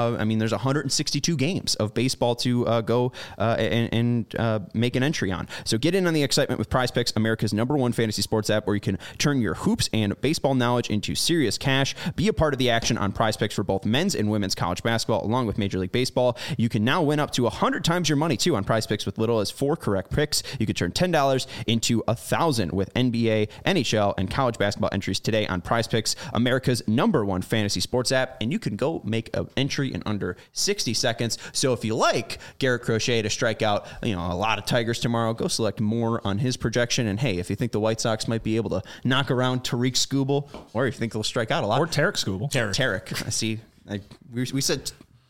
162 games of baseball to go and make an entry on. So get in on the excitement with Prize Picks, America's #1 fantasy sports app, where you can turn your hoops and baseball knowledge into serious cash. Be a part of the action on Prize Picks for both men's and women's college basketball, along with Major League Baseball. You can now win up to 100 times your money, too, on Prize Picks with little as 4 correct picks. You could turn $10 into $1,000 with NBA, NHL, and college basketball entries today on Prize Picks, America's #1 fantasy sports app, and you can go make an entry in under 60 seconds. So if you like Garrett Crochet to strike out, a lot of Tigers tomorrow, go select more on his projection. And hey, if you think the White Sox might be able to knock around Tariq Skubal, or if you think they'll strike out a lot, or Tarek Skubal, Tarek. I see. We said.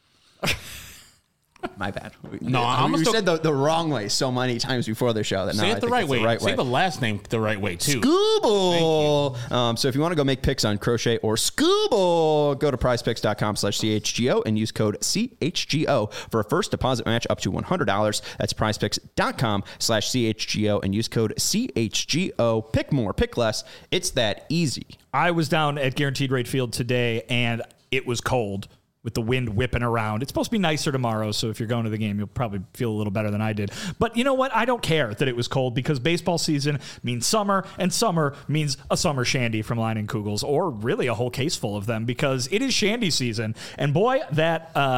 My bad. No, we said the wrong way so many times before the show that now say it the right way. Right say way. the last name the right way too. Skubal. So if you want to go make picks on Crochet or Skubal, go to prizepicks.com/CHGO and use code CHGO for a first deposit match up to $100. That's prizepicks.com/CHGO and use code CHGO. Pick more, pick less. It's that easy. I was down at Guaranteed Rate Field today, and it was cold, with the wind whipping around. It's supposed to be nicer tomorrow, so if you're going to the game, you'll probably feel a little better than I did. But you know what? I don't care that it was cold, because baseball season means summer, and summer means a summer shandy from Leinenkugels, or really a whole case full of them, because it is shandy season. And boy, that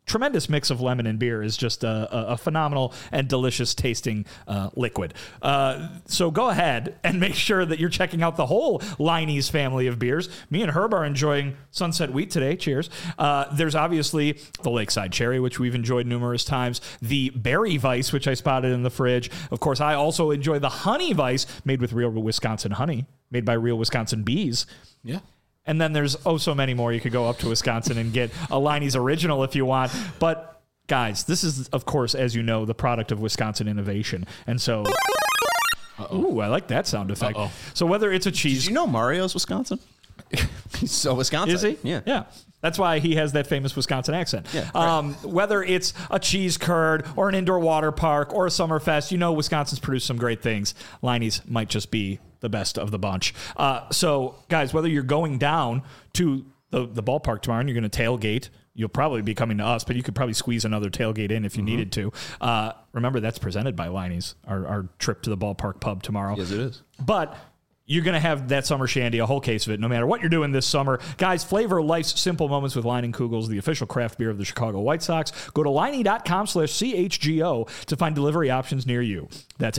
tremendous mix of lemon and beer is just a phenomenal and delicious tasting liquid. So go ahead and make sure that you're checking out the whole Leinie's family of beers. Me and Herb are enjoying Sunset Wheat today. Cheers. There's obviously the Lakeside Cherry, which we've enjoyed numerous times. The Berry Weiss, which I spotted in the fridge. Of course, I also enjoy the Honey Weiss, made with real Wisconsin honey, made by real Wisconsin bees. Yeah. And then there's so many more. You could go up to Wisconsin and get a Leinie's Original if you want. But, guys, this is, of course, as you know, the product of Wisconsin innovation. And so, ooh, I like that sound effect. So whether it's a cheese... Did you know Mario's Wisconsin? He's so Wisconsin. Is he? Yeah. Yeah. That's why he has that famous Wisconsin accent. Yeah, right. Whether it's a cheese curd or an indoor water park or a Summerfest, you know Wisconsin's produced some great things. Leinie's might just be the best of the bunch. So, guys, whether you're going down to the ballpark tomorrow and you're going to tailgate, you'll probably be coming to us, but you could probably squeeze another tailgate in if you needed to. Remember, that's presented by Leinie's, our trip to the ballpark pub tomorrow. Yes, it is. But you're going to have that summer shandy, a whole case of it, no matter what you're doing this summer. Guys, flavor life's simple moments with Leinenkugels, the official craft beer of the Chicago White Sox. Go to Leinie.com/CHGO to find delivery options near you. That's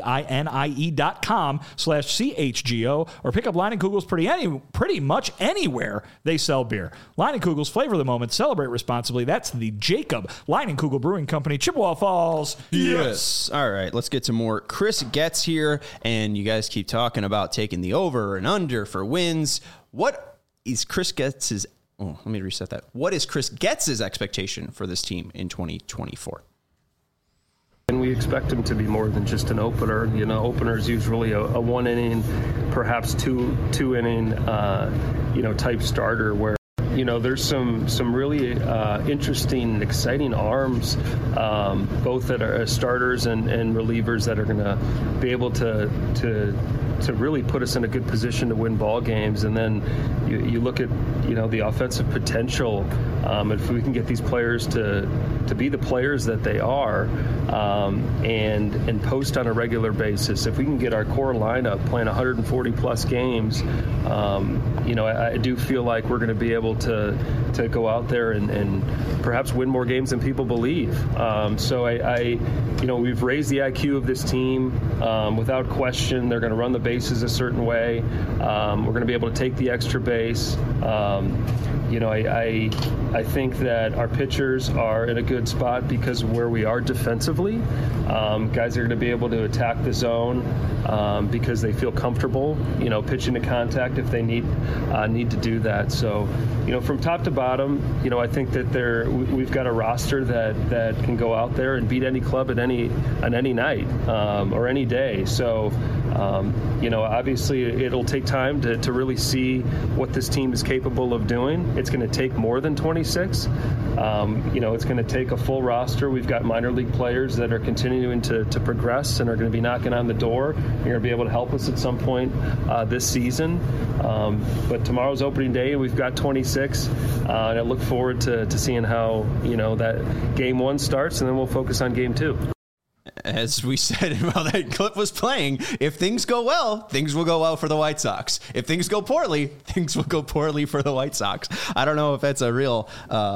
LEINIE.com/CHGO, or pick up Leinenkugels pretty much anywhere they sell beer. Leinenkugels, flavor the moment, celebrate responsibly. That's the Jacob Leinenkugel Brewing Company, Chippewa Falls. Yes. All right, let's get to more Chris Getz here, and you guys keep talking about taking the over and under for wins. What is Chris Getz's? Oh, let me reset that. What is Chris Getz's expectation for this team in 2024? And we expect him to be more than just an opener. You know, opener is usually a one inning, perhaps two inning, type starter where, you know, there's some really interesting and exciting arms, both that are starters and relievers that are going to be able to really put us in a good position to win ball games. And then you look at, you know, the offensive potential. If we can get these players to be the players that they are, and post on a regular basis, if we can get our core lineup playing 140 plus games, I do feel like we're going to be able to go out there and perhaps win more games than people believe. So we've raised the IQ of this team without question. They're going to run the bases a certain way. We're going to be able to take the extra base. I think that our pitchers are in a good spot because of where we are defensively. Guys are going to be able to attack the zone because they feel comfortable, pitching to contact if they need to do that. So, from top to bottom, I think that we've got a roster that can go out there and beat any club on any night or any day. So, obviously it'll take time to really see what this team is capable of doing. It's going to take more than 26. It's going to take a full roster. We've got minor league players that are continuing to progress and are going to be knocking on the door. They're going to be able to help us at some point this season. But tomorrow's opening day, we've got 26. And I look forward to seeing how, that game one starts, and then we'll focus on game two. As we said while that clip was playing, if things go well, things will go well for the White Sox. If things go poorly, things will go poorly for the White Sox. I don't know if that's a real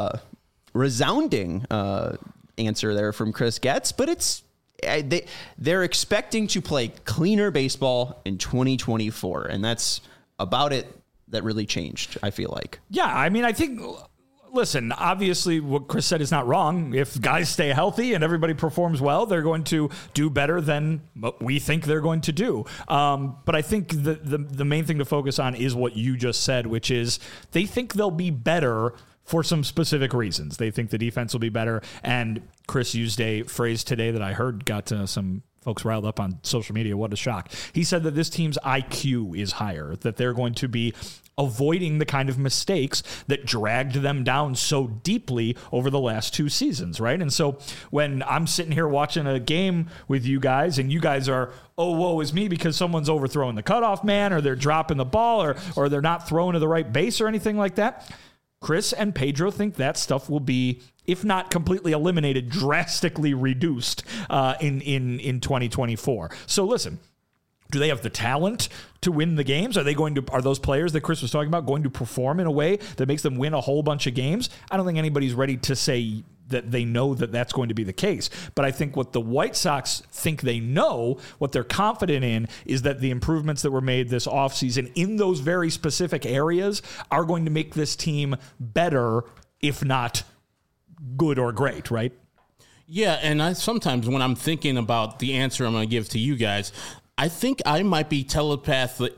resounding answer there from Chris Getz, but they're expecting to play cleaner baseball in 2024, and that's about it. That really changed, I feel like. Yeah, I mean, I think... Listen, obviously what Chris said is not wrong. If guys stay healthy and everybody performs well, they're going to do better than what we think they're going to do. But I think the main thing to focus on is what you just said, which is they think they'll be better for some specific reasons. They think the defense will be better. And Chris used a phrase today that I heard got some folks riled up on social media. What a shock. He said that this team's IQ is higher, that they're going to be avoiding the kind of mistakes that dragged them down so deeply over the last two seasons, right? And so when I'm sitting here watching a game with you guys and you guys are, oh, woe is me because someone's overthrowing the cutoff man or they're dropping the ball or they're not throwing to the right base or anything like that, Chris and Pedro think that stuff will be, if not completely eliminated, drastically reduced in 2024. So listen, do they have the talent to win the games? Are those players that Chris was talking about going to perform in a way that makes them win a whole bunch of games? I don't think anybody's ready to say that they know that that's going to be the case. But I think what the White Sox think they know, what they're confident in, is that the improvements that were made this offseason in those very specific areas are going to make this team better, if not good or great, right? Yeah, and sometimes when I'm thinking about the answer I'm going to give to you guys, I think I might be telepathy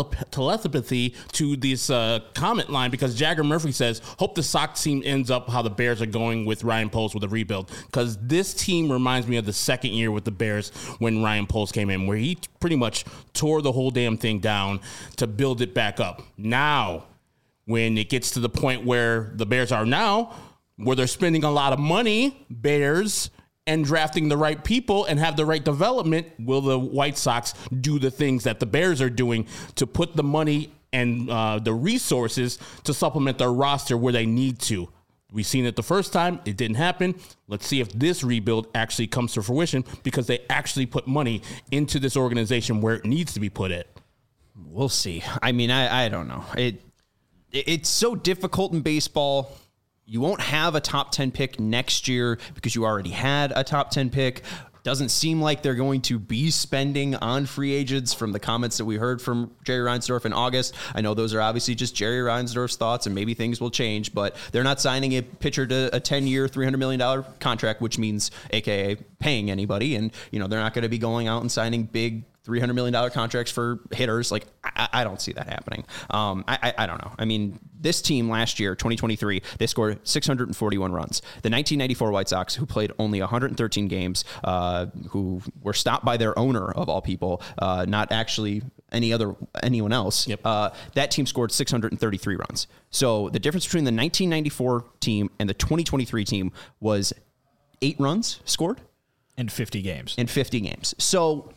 to this comment line, because Jagger Murphy says, hope the Sox team ends up how the Bears are going with Ryan Poles with a rebuild, because this team reminds me of the second year with the Bears when Ryan Poles came in, where he pretty much tore the whole damn thing down to build it back up. Now, when it gets to the point where the Bears are now, where they're spending a lot of money, Bears, and drafting the right people and have the right development, will the White Sox do the things that the Bears are doing to put the money and the resources to supplement their roster where they need to? We've seen it the first time. It didn't happen. Let's see if this rebuild actually comes to fruition, because they actually put money into this organization where it needs to be put at. We'll see. I mean, I don't know. It's so difficult in baseball. You won't have a top 10 pick next year because you already had a top 10 pick. Doesn't seem like they're going to be spending on free agents from the comments that we heard from Jerry Reinsdorf in August. I know those are obviously just Jerry Reinsdorf's thoughts, and maybe things will change, but they're not signing a pitcher to a 10-year, $300 million contract, which means AKA paying anybody. And, they're not going to be going out and signing big $300 million contracts for hitters. Like, I don't see that happening. I don't know. I mean, this team last year, 2023, they scored 641 runs. The 1994 White Sox, who played only 113 games, who were stopped by their owner, of all people, not actually anyone else. Yep. That team scored 633 runs. So the difference between the 1994 team and the 2023 team was 8 runs scored in 50 games. So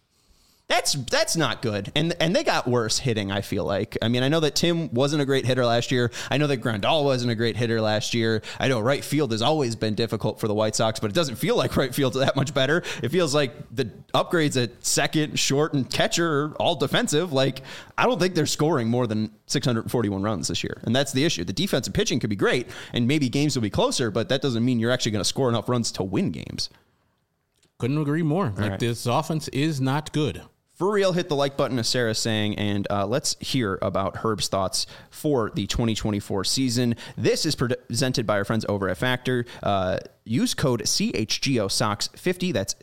that's not good. And they got worse hitting, I feel like. I mean, I know that Tim wasn't a great hitter last year. I know that Grandal wasn't a great hitter last year. I know right field has always been difficult for the White Sox, but it doesn't feel like right field's that much better. It feels like the upgrades at second, short, and catcher are all defensive. Like, I don't think they're scoring more than 641 runs this year. And that's the issue. The defensive pitching could be great, and maybe games will be closer, but that doesn't mean you're actually going to score enough runs to win games. Couldn't agree more. Right. This offense is not good. For real, hit the like button, as Sarah's saying, and let's hear about Herb's thoughts for the 2024 season. This is presented by our friends over at Factor. Use code CHGOSOX50. That's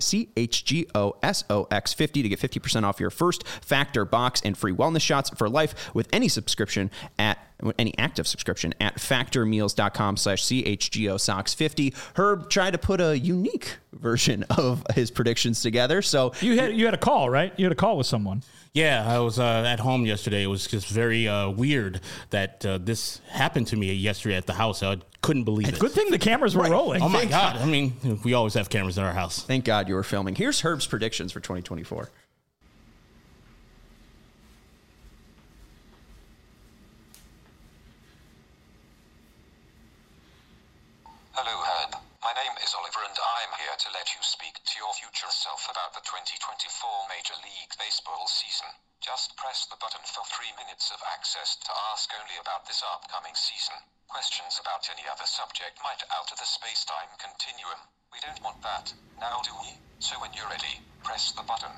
CHGOSOX50 to get 50% off your first Factor box and free wellness shots for life with any subscription any active subscription at factormeals.com/CHGOSOX50. Herb tried to put a unique version of his predictions together. So you had a call, right? You had a call with someone. Yeah, I was at home yesterday. It was just very weird that this happened to me yesterday at the house. I couldn't believe it. Good thing the cameras were rolling. Oh, my God. I mean, we always have cameras in our house. Thank God you were filming. Here's Herb's predictions for 2024. Hello, Herb. My name is Oliver, and I'm here to let you speak to your future self about the 2024 Major League Baseball season. Just press the button for 3 minutes of access to ask only about this upcoming season. Questions about any other subject might alter the space-time continuum. We don't want that, now do we? So when you're ready, press the button.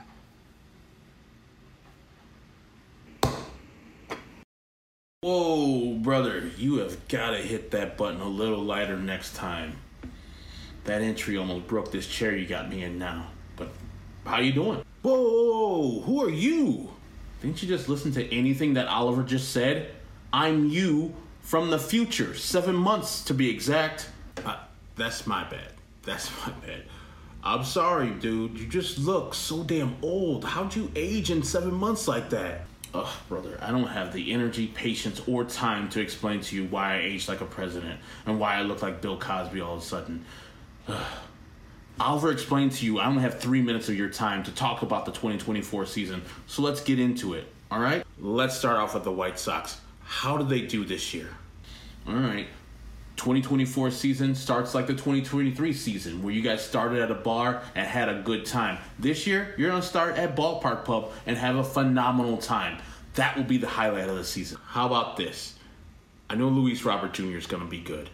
Whoa, brother, you have got to hit that button a little lighter next time. That entry almost broke this chair you got me in now. But how you doing? Whoa, who are you? Didn't you just listen to anything that Oliver just said? I'm you from the future, 7 months to be exact. That's my bad. I'm sorry, dude. You just look so damn old. How'd you age in 7 months like that? Ugh, brother, I don't have the energy, patience, or time to explain to you why I aged like a president and why I look like Bill Cosby all of a sudden. Oliver explained to you I only have 3 minutes of your time to talk about the 2024 season, so let's get into it, all right? Let's start off with the White Sox. How did they do this year? All right, 2024 season starts like the 2023 season, where you guys started at a bar and had a good time. This year, you're going to start at Ballpark Pub and have a phenomenal time. That will be the highlight of the season. How about this? I know Luis Robert Jr. is going to be good.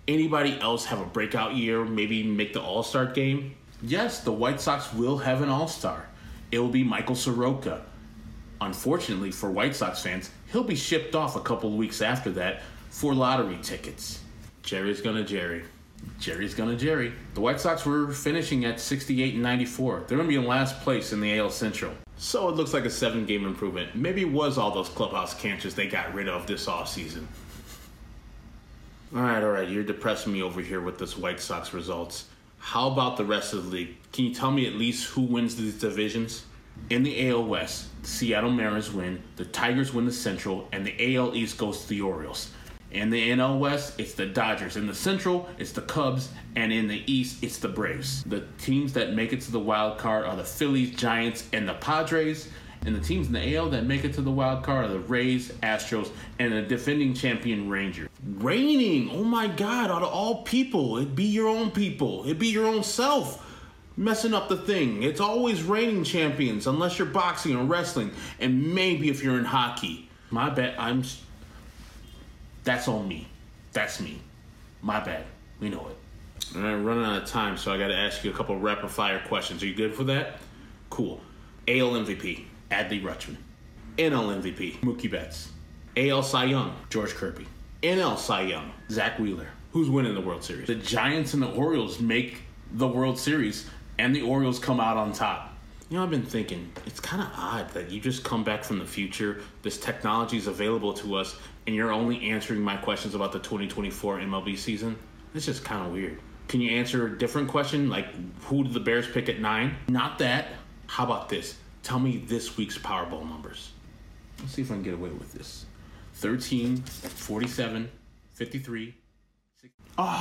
Anybody else have a breakout year, maybe make the All-Star game? Yes, the White Sox will have an All-Star. It will be Michael Soroka. Unfortunately for White Sox fans, he'll be shipped off a couple of weeks after that for lottery tickets. Jerry's gonna Jerry. Jerry's gonna Jerry. The White Sox were finishing at 68 and 94. They're gonna be in last place in the AL Central. So it looks like a 7-game improvement. Maybe it was all those clubhouse cancers they got rid of this offseason. All right. You're depressing me over here with this White Sox results. How about the rest of the league? Can you tell me at least who wins these divisions? In the AL West, the Seattle Mariners win, the Tigers win the Central, and the AL East goes to the Orioles. In the NL West, it's the Dodgers. In the Central, it's the Cubs. And in the East, it's the Braves. The teams that make it to the wild card are the Phillies, Giants, and the Padres. And the teams in the AL that make it to the wild card are the Rays, Astros, and the defending champion Rangers. Reigning! Oh my God, out of all people, it'd be your own people. It'd be your own self messing up the thing. It's always reigning champions, unless you're boxing or wrestling, and maybe if you're in hockey. My bad, that's on me. That's me. My bad. We know it. And I'm running out of time, so I got to ask you a couple rapid fire questions. Are you good for that? Cool. AL MVP, Adley Rutschman. NL MVP, Mookie Betts. AL Cy Young, George Kirby. NL Cy Young, Zach Wheeler. Who's winning the World Series? The Giants and the Orioles make the World Series, and the Orioles come out on top. You know, I've been thinking, it's kind of odd that you just come back from the future, this technology is available to us, and you're only answering my questions about the 2024 MLB season. It's just kind of weird. Can you answer a different question, like who did the Bears pick at 9? Not that. How about this? Tell me this week's Powerball numbers. Let's see if I can get away with this. 13, 47, 53, 60.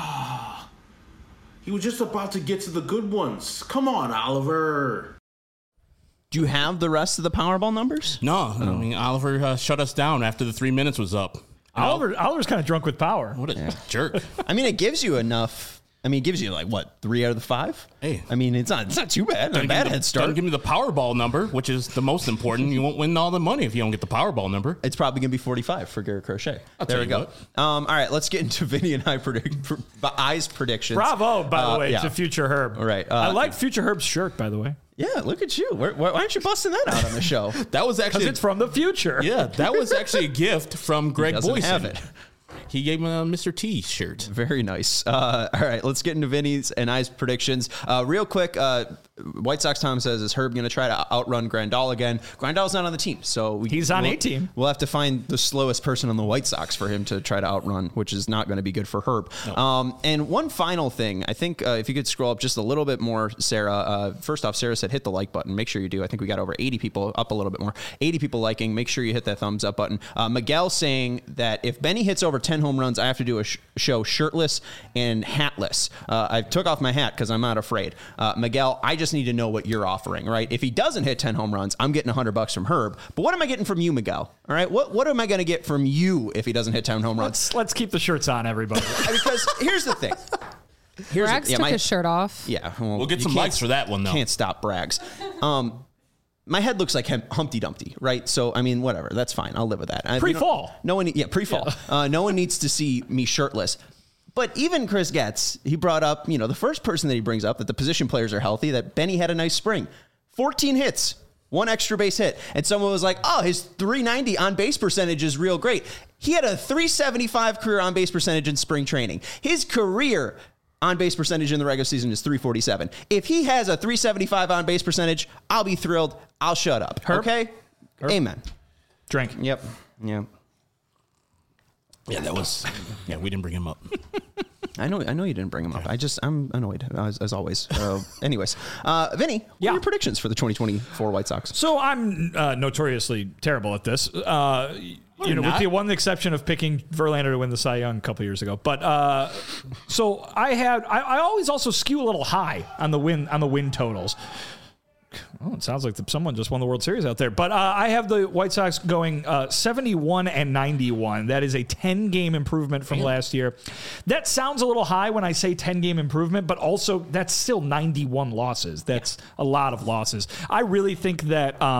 He was just about to get to the good ones. Come on, Oliver. Do you have the rest of the Powerball numbers? No, I mean, Oliver shut us down after the 3 minutes was up. Oliver's kind of drunk with power. What a jerk. I mean, it gives you enough. I mean, it gives you like what, 3 out of the 5? Hey, I mean, it's not too bad. Not a bad head start. Doesn't give me the Powerball number, which is the most important. You won't win all the money if you don't get the Powerball number. It's probably gonna be 45 for Garrett Crochet. There we go. What. All right, let's get into Vinny and I's predictions. Bravo, by the way, to Future Herb. All right, I like Future Herb's shirt, by the way. Yeah, look at you. Why aren't you busting that out on the show? That was actually because it's from the future. Yeah, that was actually a gift from Greg Boyson. Have it. He gave him a Mr. T shirt. Very nice. All right, let's get into Vinny's and I's predictions. Real quick, White Sox Tom says, is Herb going to try to outrun Grandal again? Grandal's not on the team, so he's on a team. We'll have to find the slowest person on the White Sox for him to try to outrun, which is not going to be good for Herb. No. And one final thing, I think if you could scroll up just a little bit more, Sarah. First off, Sarah said hit the like button. Make sure you do. I think we got over 80 people, up a little bit more. 80 people liking. Make sure you hit that thumbs up button. Miguel saying that if Benny hits over 10 home runs, I have to do a show shirtless and hatless. I took off my hat because I'm not afraid. Miguel, I just need to know what you're offering, right? If he doesn't hit 10 home runs, I'm getting $100 from Herb. But what am I getting from you, Miguel? All right, what am I going to get from you if he doesn't hit 10 home runs? Let's keep the shirts on, everybody. Because here's the thing. Brags took his shirt off. Yeah, we'll get some likes for that one, though. Can't stop Brags. My head looks like Humpty Dumpty, right? So, I mean, whatever. That's fine. I'll live with that. Pre-fall. Pre-fall. Yeah. No one needs to see me shirtless. But even Chris Getz, he brought up, the first person that he brings up, that the position players are healthy, that Benny had a nice spring. 14 hits, 1 extra base hit. And someone was like, oh, his 390 on-base percentage is real great. He had a 375 career on-base percentage in spring training. His career on-base percentage in the regular season is 347. If he has a 375 on-base percentage, I'll be thrilled. I'll shut up. Herb? Okay? Herb? Amen. Drink. Yep. Yeah. Yeah, that was... Yeah, we didn't bring him up. I know you didn't bring him up. I'm annoyed, as always. Anyways. Vinny, what are your predictions for the 2024 White Sox? So I'm notoriously terrible at this. With the one exception of picking Verlander to win the Cy Young a couple years ago. But so I always also skew a little high on the win totals. Oh, it sounds like someone just won the World Series out there. But I have the White Sox going 71 and 91. That is a 10-game improvement from last year. That sounds a little high when I say 10-game improvement, but also that's still 91 losses. That's a lot of losses. I really think that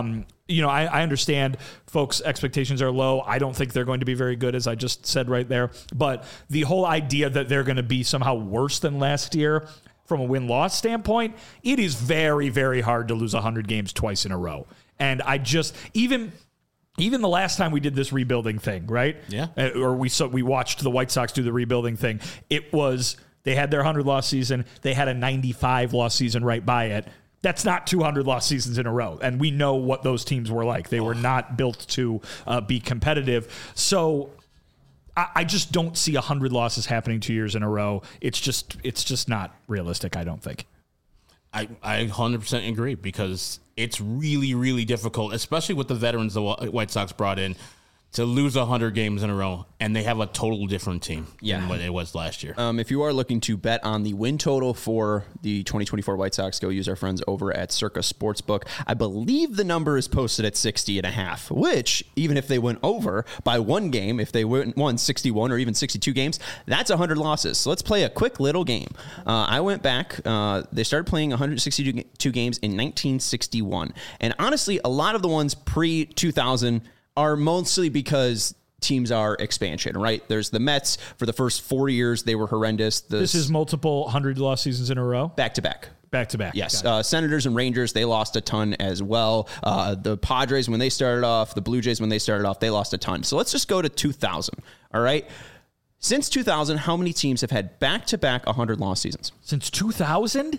I understand folks' expectations are low. I don't think they're going to be very good, as I just said right there. But the whole idea that they're going to be somehow worse than last year from a win-loss standpoint, it is very, very hard to lose 100 games twice in a row. And I just, even the last time we did this rebuilding thing, right? Yeah. Or we watched the White Sox do the rebuilding thing. It was, they had their 100-loss season. They had a 95-loss season right by it. That's not 200 loss seasons in a row. And we know what those teams were like. They were not built to be competitive. So I just don't see 100 losses happening 2 years in a row. It's just not realistic, I don't think. I 100% agree, because it's really, really difficult, especially with the veterans the White Sox brought in, to lose 100 games in a row, and they have a total different team than what it was last year. If you are looking to bet on the win total for the 2024 White Sox, go use our friends over at Circa Sportsbook. I believe the number is posted at 60.5, which, even if they went over by one game, if they won 61 or even 62 games, that's 100 losses. So let's play a quick little game. I went back. They started playing 162 games in 1961. And honestly, a lot of the ones pre-2000 are mostly because teams are expansion, right? There's the Mets. For the first 4 years, they were horrendous. This is multiple 100-loss seasons in a row? Back-to-back. Back-to-back. Yes. Senators and Rangers, they lost a ton as well. The Padres, when they started off, the Blue Jays, when they started off, they lost a ton. So let's just go to 2000, all right? Since 2000, how many teams have had back-to-back 100-loss seasons? Since 2000?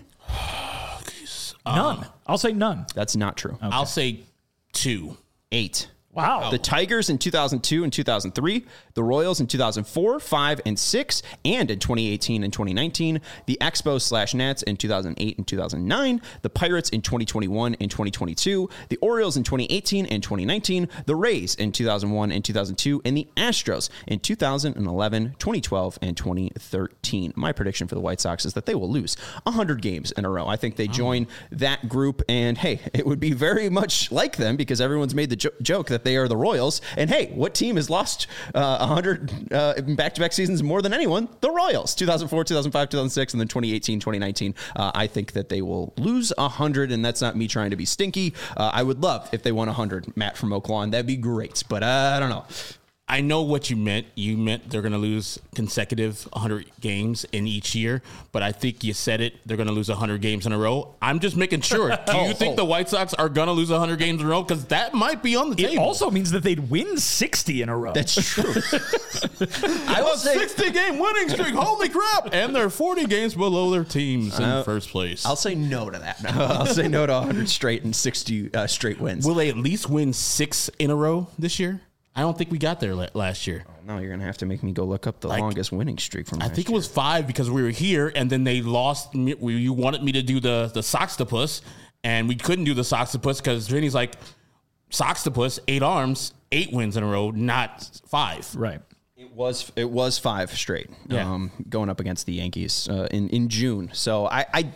None. I'll say none. That's not true. Okay. I'll say 2. 8. Wow. The Tigers in 2002 and 2003, the Royals in 2004, 5, and 6, and in 2018 and 2019, the Expos/Nats in 2008 and 2009, the Pirates in 2021 and 2022, the Orioles in 2018 and 2019, the Rays in 2001 and 2002, and the Astros in 2011, 2012, and 2013. My prediction for the White Sox is that they will lose 100 games in a row. I think they join that group, and hey, it would be very much like them, because everyone's made the joke that they are the Royals. And hey, what team has lost 100 back-to-back seasons more than anyone? The Royals. 2004, 2005, 2006, and then 2018, 2019. I think that they will lose 100, and that's not me trying to be stinky. I would love if they won 100, Matt from Oak Lawn. That'd be great, but I don't know. I know what you meant. You meant they're going to lose consecutive 100 games in each year, but I think you said it. They're going to lose 100 games in a row. I'm just making sure. Do you think the White Sox are going to lose 100 games in a row? Because that might be on the table. It also means that they'd win 60 in a row. That's true. I will say 60-game winning streak. Holy crap. And they're 40 games below their teams in first place. I'll say no to that. I'll say no to 100 straight and 60 straight wins. Will they at least win 6 in a row this year? I don't think we got there last year. Oh, no, you're going to have to make me go look up the longest winning streak from last year. I think it was 5 because we were here, and then they lost. You wanted me to do the Soxtopus, and we couldn't do the Soxtopus because Vinny's like, Soxtopus, 8 arms, 8 wins in a row, not 5. Right. It was 5 straight, going up against the Yankees in June. So I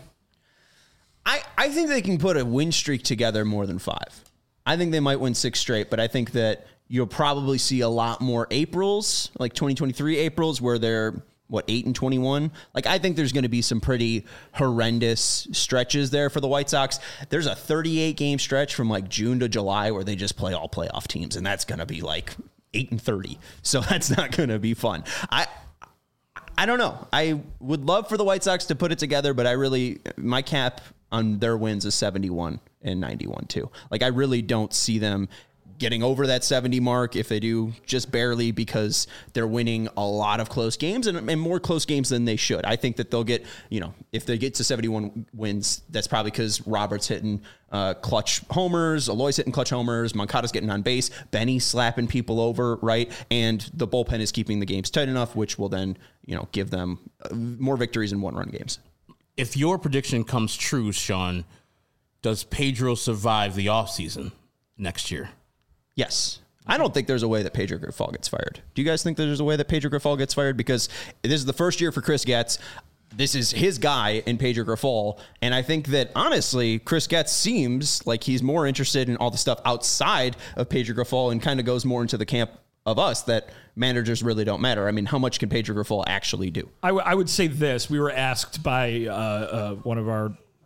think they can put a win streak together more than 5. I think they might win 6 straight, but I think that you'll probably see a lot more Aprils, like 2023 Aprils, where they're, 8-21? Like, I think there's going to be some pretty horrendous stretches there for the White Sox. There's a 38-game stretch from, June to July where they just play all playoff teams, and that's going to be, 8-30. So that's not going to be fun. I don't know. I would love for the White Sox to put it together, but my cap on their wins is 71 and 91, too. I really don't see them getting over that 70 mark. If they do, just barely, because they're winning a lot of close games and more close games than they should. I think that they'll get, if they get to 71 wins, that's probably because Robert's hitting clutch homers, Aloy's hitting clutch homers, Moncada's getting on base, Benny's slapping people over, right? And the bullpen is keeping the games tight enough, which will then, give them more victories in one-run games. If your prediction comes true, Sean, does Pedro survive the offseason next year? Yes. I don't think there's a way that Pedro Grifol gets fired. Do you guys think there's a way that Pedro Grifol gets fired? Because this is the first year for Chris Getz. This is his guy in Pedro Grifol. And I think that, honestly, Chris Getz seems like he's more interested in all the stuff outside of Pedro Grifol and kind of goes more into the camp of us that managers really don't matter. I mean, how much can Pedro Grifol actually do? I would say this. We were asked by one of our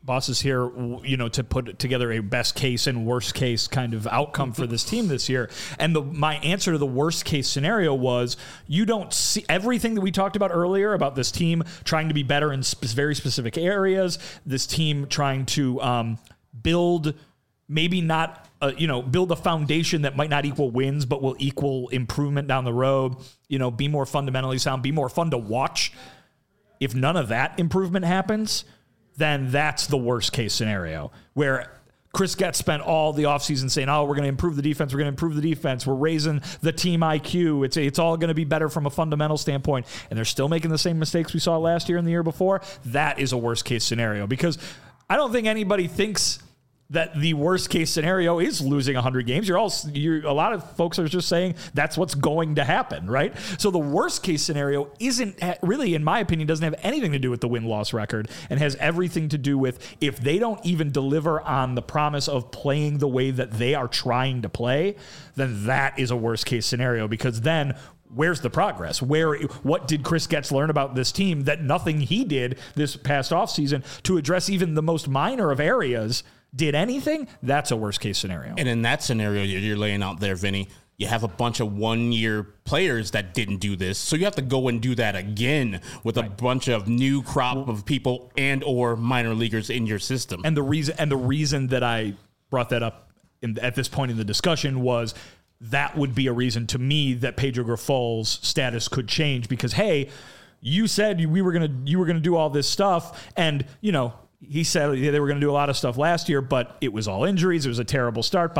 Boss is here, to put together a best case and worst case kind of outcome for this team this year. And my answer to the worst case scenario was, you don't see everything that we talked about earlier about this team trying to be better in very specific areas, this team trying to build maybe not, build a foundation that might not equal wins, but will equal improvement down the road, be more fundamentally sound, be more fun to watch. If none of that improvement happens, then that's the worst case scenario, where Chris Getz spent all the offseason saying, we're going to improve the defense. We're going to improve the defense. We're raising the team IQ. It's all going to be better from a fundamental standpoint. And they're still making the same mistakes we saw last year and the year before. That is a worst case scenario, because I don't think anybody thinks that the worst case scenario is losing 100 games. A lot of folks are just saying that's what's going to happen, right? So the worst case scenario isn't really, in my opinion, doesn't have anything to do with the win-loss record, and has everything to do with, if they don't even deliver on the promise of playing the way that they are trying to play, then that is a worst case scenario, because then where's the progress? What did Chris Getz learn about this team that nothing he did this past offseason to address even the most minor of areas did anything? That's a worst case scenario. And in that scenario you're laying out there, Vinny, you have a bunch of one-year players that didn't do this. So you have to go and do that again with a bunch of new crop of people and or minor leaguers in your system. And the reason that I brought that up at this point in the discussion was that would be a reason to me that Pedro Grifol's status could change, because, hey, you said you were going to do all this stuff, and, he said they were going to do a lot of stuff last year, but it was all injuries. It was a terrible start,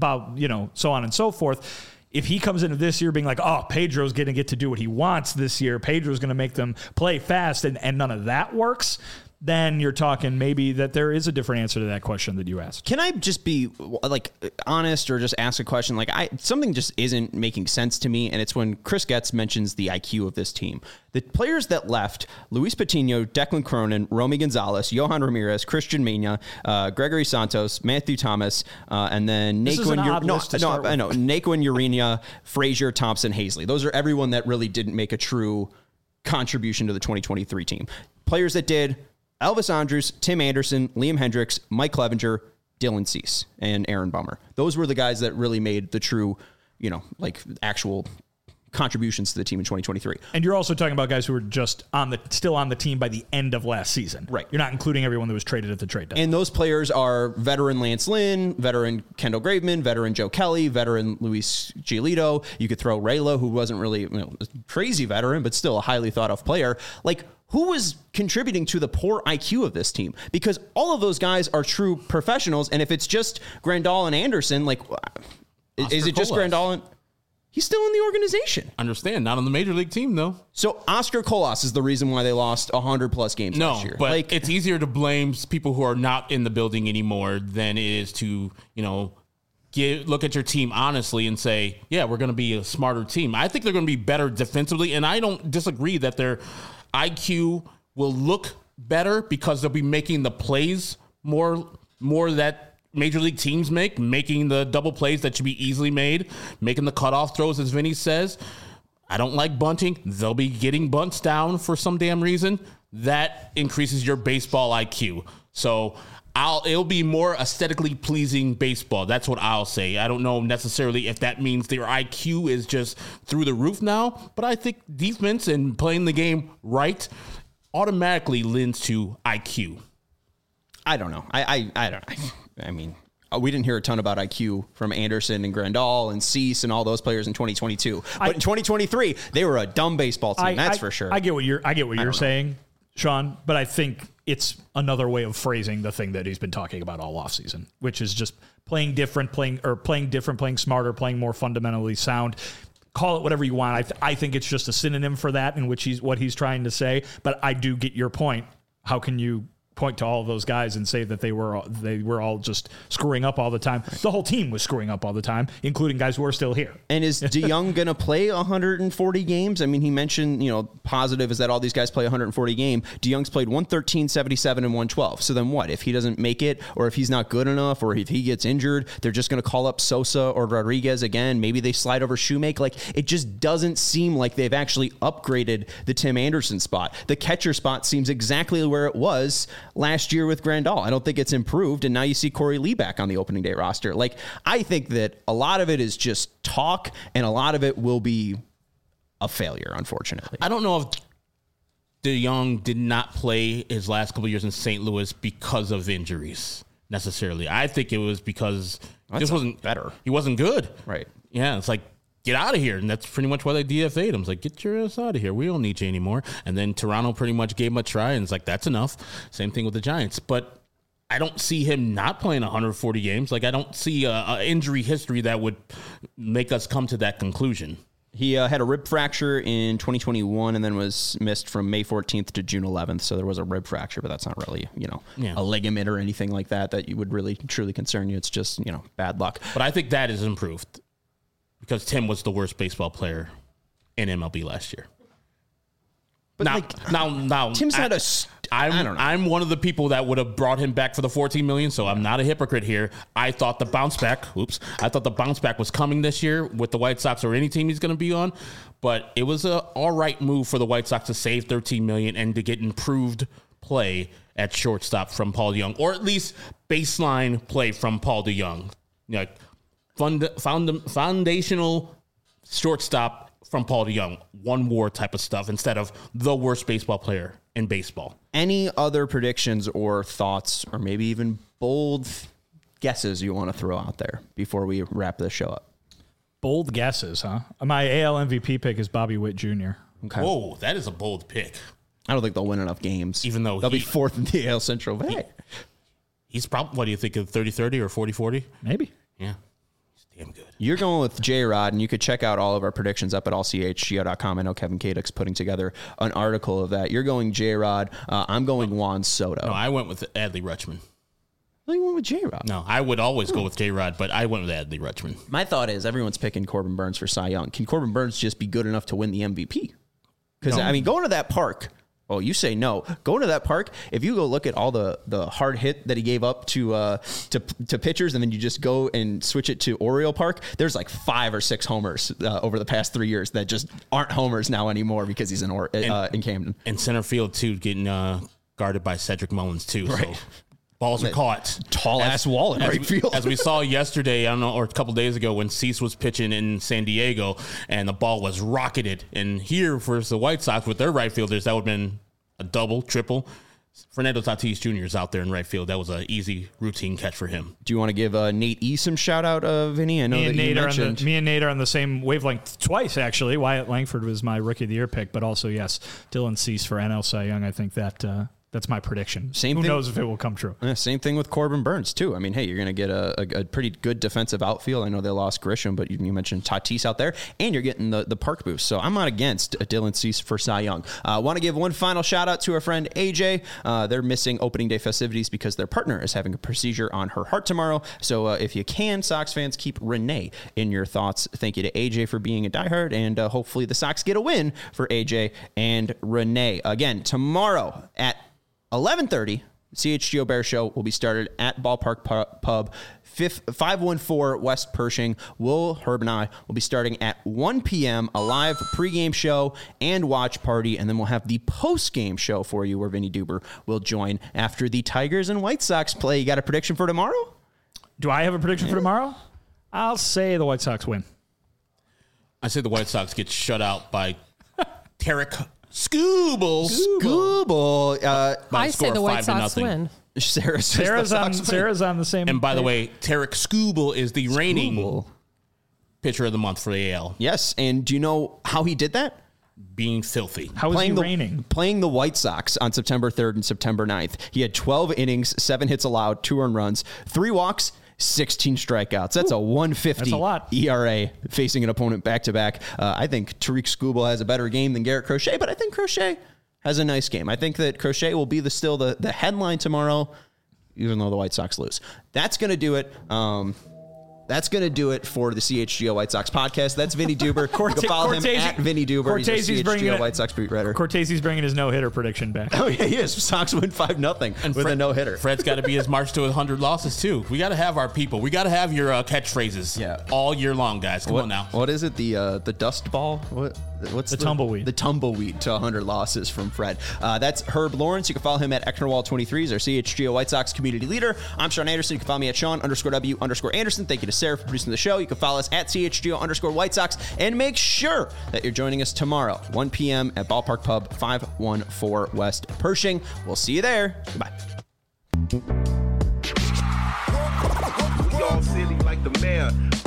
so on and so forth. If he comes into this year being like, Pedro's going to get to do what he wants this year, Pedro's going to make them play fast, and none of that works, then you're talking maybe that there is a different answer to that question that you asked. Can I just be honest, or just ask a question? Something just isn't making sense to me, and it's when Chris Getz mentions the IQ of this team. The players that left: Luis Patino, Declan Cronin, Romy Gonzalez, Johan Ramirez, Christian Mena, Gregory Santos, Matthew Thomas, and then Naquin Urena, Frazier, Thompson, Hazley. Those are everyone that really didn't make a true contribution to the 2023 team. Players that did: Elvis Andrus, Tim Anderson, Liam Hendriks, Mike Clevenger, Dylan Cease, and Aaron Bummer. Those were the guys that really made the true, actual contributions to the team in 2023. And you're also talking about guys who were just still on the team by the end of last season. Right. You're not including everyone that was traded at the trade deadline. And those players are veteran Lance Lynn, veteran Kendall Graveman, veteran Joe Kelly, veteran Luis Giolito. You could throw Rayla, who wasn't really a crazy veteran, but still a highly thought of player. Who was contributing to the poor IQ of this team? Because all of those guys are true professionals. And if it's just Grandal and Anderson, is it just Grandal and... He's still in the organization. Understand, not on the major league team, though. So Oscar Colas is the reason why they lost 100-plus games last year. But it's easier to blame people who are not in the building anymore than it is to, look at your team honestly and say, yeah, we're going to be a smarter team. I think they're going to be better defensively, and I don't disagree that their IQ will look better because they'll be making the plays more that major league teams making the double plays that should be easily made, making the cutoff throws, as Vinny says. I don't like bunting. They'll be getting bunts down for some damn reason. That increases your baseball IQ. So it'll be more aesthetically pleasing baseball. That's what I'll say. I don't know necessarily if that means their IQ is just through the roof now, but I think defense and playing the game right automatically lends to IQ. I don't know. I don't know. I mean, we didn't hear a ton about IQ from Anderson and Grandal and Cease and all those players in 2022. But in 2023, they were a dumb baseball team. That's for sure. I get what you're saying, Sean, but I think it's another way of phrasing the thing that he's been talking about all offseason, which is just playing different, playing smarter, playing more fundamentally sound. Call it whatever you want. I think it's just a synonym for that, in which what he's trying to say. But I do get your point. How can you point to all of those guys and say that they were all just screwing up all the time? The whole team was screwing up all the time, including guys who are still here. And is DeYoung going to play 140 games? I mean, he mentioned, positive is that all these guys play 140 games. DeYoung's played 113, 77, and 112. So then what? If he doesn't make it, or if he's not good enough, or if he gets injured, they're just going to call up Sosa or Rodriguez again. Maybe they slide over Shoemake. It just doesn't seem like they've actually upgraded the Tim Anderson spot. The catcher spot seems exactly where it was last year with Grandal. I don't think it's improved. And now you see Corey Lee back on the opening day roster. Like, I think that a lot of it is just talk, and a lot of it will be a failure, unfortunately. I don't know if DeJong did not play his last couple of years in St. Louis because of injuries necessarily. I think it was because this wasn't better. He wasn't good. Right. Yeah, it's like, get out of here. And that's pretty much why they DFA'd him. It's like, get your ass out of here. We don't need you anymore. And then Toronto pretty much gave him a try, and it's like, that's enough. Same thing with the Giants. But I don't see him not playing 140 games. Like, I don't see a injury history that would make us come to that conclusion. He had a rib fracture in 2021 and then was missed from May 14th to June 11th. So there was a rib fracture, but that's not really, a ligament or anything like that you would really truly concern you. It's just, bad luck. But I think that is improved because Tim was the worst baseball player in MLB last year. But now, Tim's not a. I don't know. I'm one of the people that would have brought him back for the $14 million, so I'm not a hypocrite here. I thought the bounce back. I thought the bounce back was coming this year with the White Sox or any team he's going to be on, but it was a all right move for the White Sox to save $13 million and to get improved play at shortstop from Paul DeJong, or at least baseline play from Paul DeJong, like foundational shortstop from Paul DeJong, one WAR type of stuff instead of the worst baseball player in baseball. Any other predictions or thoughts, or maybe even bold guesses you want to throw out there before we wrap this show up? Bold guesses, huh? My AL MVP pick is Bobby Witt Jr. Okay. Whoa, that is a bold pick. I don't think they'll win enough games. Even though they'll be fourth in the AL Central. But he's probably, what do you think, of 30-30 or 40-40? Maybe. Yeah. Damn good. You're going with J-Rod, and you could check out all of our predictions up at allchgo.com. I know Kevin Kadek's putting together an article of that. You're going J-Rod. I'm going Juan Soto. No, I went with Adley Rutschman. You went with J-Rod. No, I would always go with J-Rod, but I went with Adley Rutschman. My thought is everyone's picking Corbin Burns for Cy Young. Can Corbin Burns just be good enough to win the MVP? Because, going to that park... Oh, you say no. Going to that park, if you go look at all the hard hit that he gave up to pitchers, and then you just go and switch it to Oriole Park, there's like 5 or 6 homers over the past 3 years that just aren't homers now anymore because he's in Camden. And center field, too, getting guarded by Cedric Mullins, too. Right. So balls are caught. Tall-ass wall in right field. As we saw yesterday, I don't know, or a couple days ago when Cease was pitching in San Diego and the ball was rocketed. And here for the White Sox with their right fielders, that would have been a double, triple. Fernando Tatis Jr. is out there in right field. That was an easy routine catch for him. Do you want to give Nate E some shout out, Vinny? I know that you mentioned. Me and Nate are on the same wavelength twice, actually. Wyatt Langford was my Rookie of the Year pick, but also, yes, Dylan Cease for NL Cy Young. I think that that's my prediction. Who knows if it will come true? Same thing with Corbin Burns, too. I mean, hey, you're going to get a pretty good defensive outfield. I know they lost Grisham, but you mentioned Tatis out there, and you're getting the park boost. So I'm not against Dylan Cease for Cy Young. Want to give one final shout-out to our friend AJ. They're missing opening day festivities because their partner is having a procedure on her heart tomorrow. So if you can, Sox fans, keep Renee in your thoughts. Thank you to AJ for being a diehard, and hopefully the Sox get a win for AJ and Renee. Again, tomorrow at 11:30, CHGO Bear Show will be started at Ballpark Pub, 514 West Pershing. Herb and I will be starting at 1 p.m., a live pregame show and watch party, and then we'll have the postgame show for you where Vinny Duber will join after the Tigers and White Sox play. You got a prediction for tomorrow? Do I have a prediction for tomorrow? I'll say the White Sox win. I say the White Sox get shut out by Tarek Skubal. I say the White Sox win. Sarah's on the same. And by the way, Tarek Skubal is the reigning pitcher of the month for the AL. Yes, and do you know how he did that? Being filthy. How is he reigning? Playing the White Sox on September 3rd and September 9th. He had 12 innings, 7 hits allowed, 2 earned runs, 3 walks, 16 strikeouts. That's a 150 That's a lot. ERA facing an opponent back-to-back. I think Tariq Skubal has a better game than Garrett Crochet, but I think Crochet has a nice game. I think that Crochet will be still the headline tomorrow, even though the White Sox lose. That's going to do it. That's going to do it for the CHGO White Sox podcast. That's Vinny Duber. You can follow him at Vinny Duber. He's a CHGO White Sox beat writer. Cortese's bringing his no-hitter prediction back. Oh, yeah, he is. Sox win 5-0 with a no-hitter. Fred's got to be his march to 100 losses, too. We got to have our people. We got to have your catchphrases all year long, guys. Come on now. What is it? The dust ball? What? what's the tumbleweed. The tumbleweed to 100 losses from Fred. That's Herb Lawrence. You can follow him at Ecknerwall23. He's our CHGO White Sox community leader. I'm Sean Anderson. You can follow me at Sean_W_Anderson. Thank you to Sarah for producing the show. You can follow us at CHGO_White Sox. And make sure that you're joining us tomorrow, 1 p.m. at Ballpark Pub, 514 West Pershing. We'll see you there. Goodbye. We all silly like the mayor.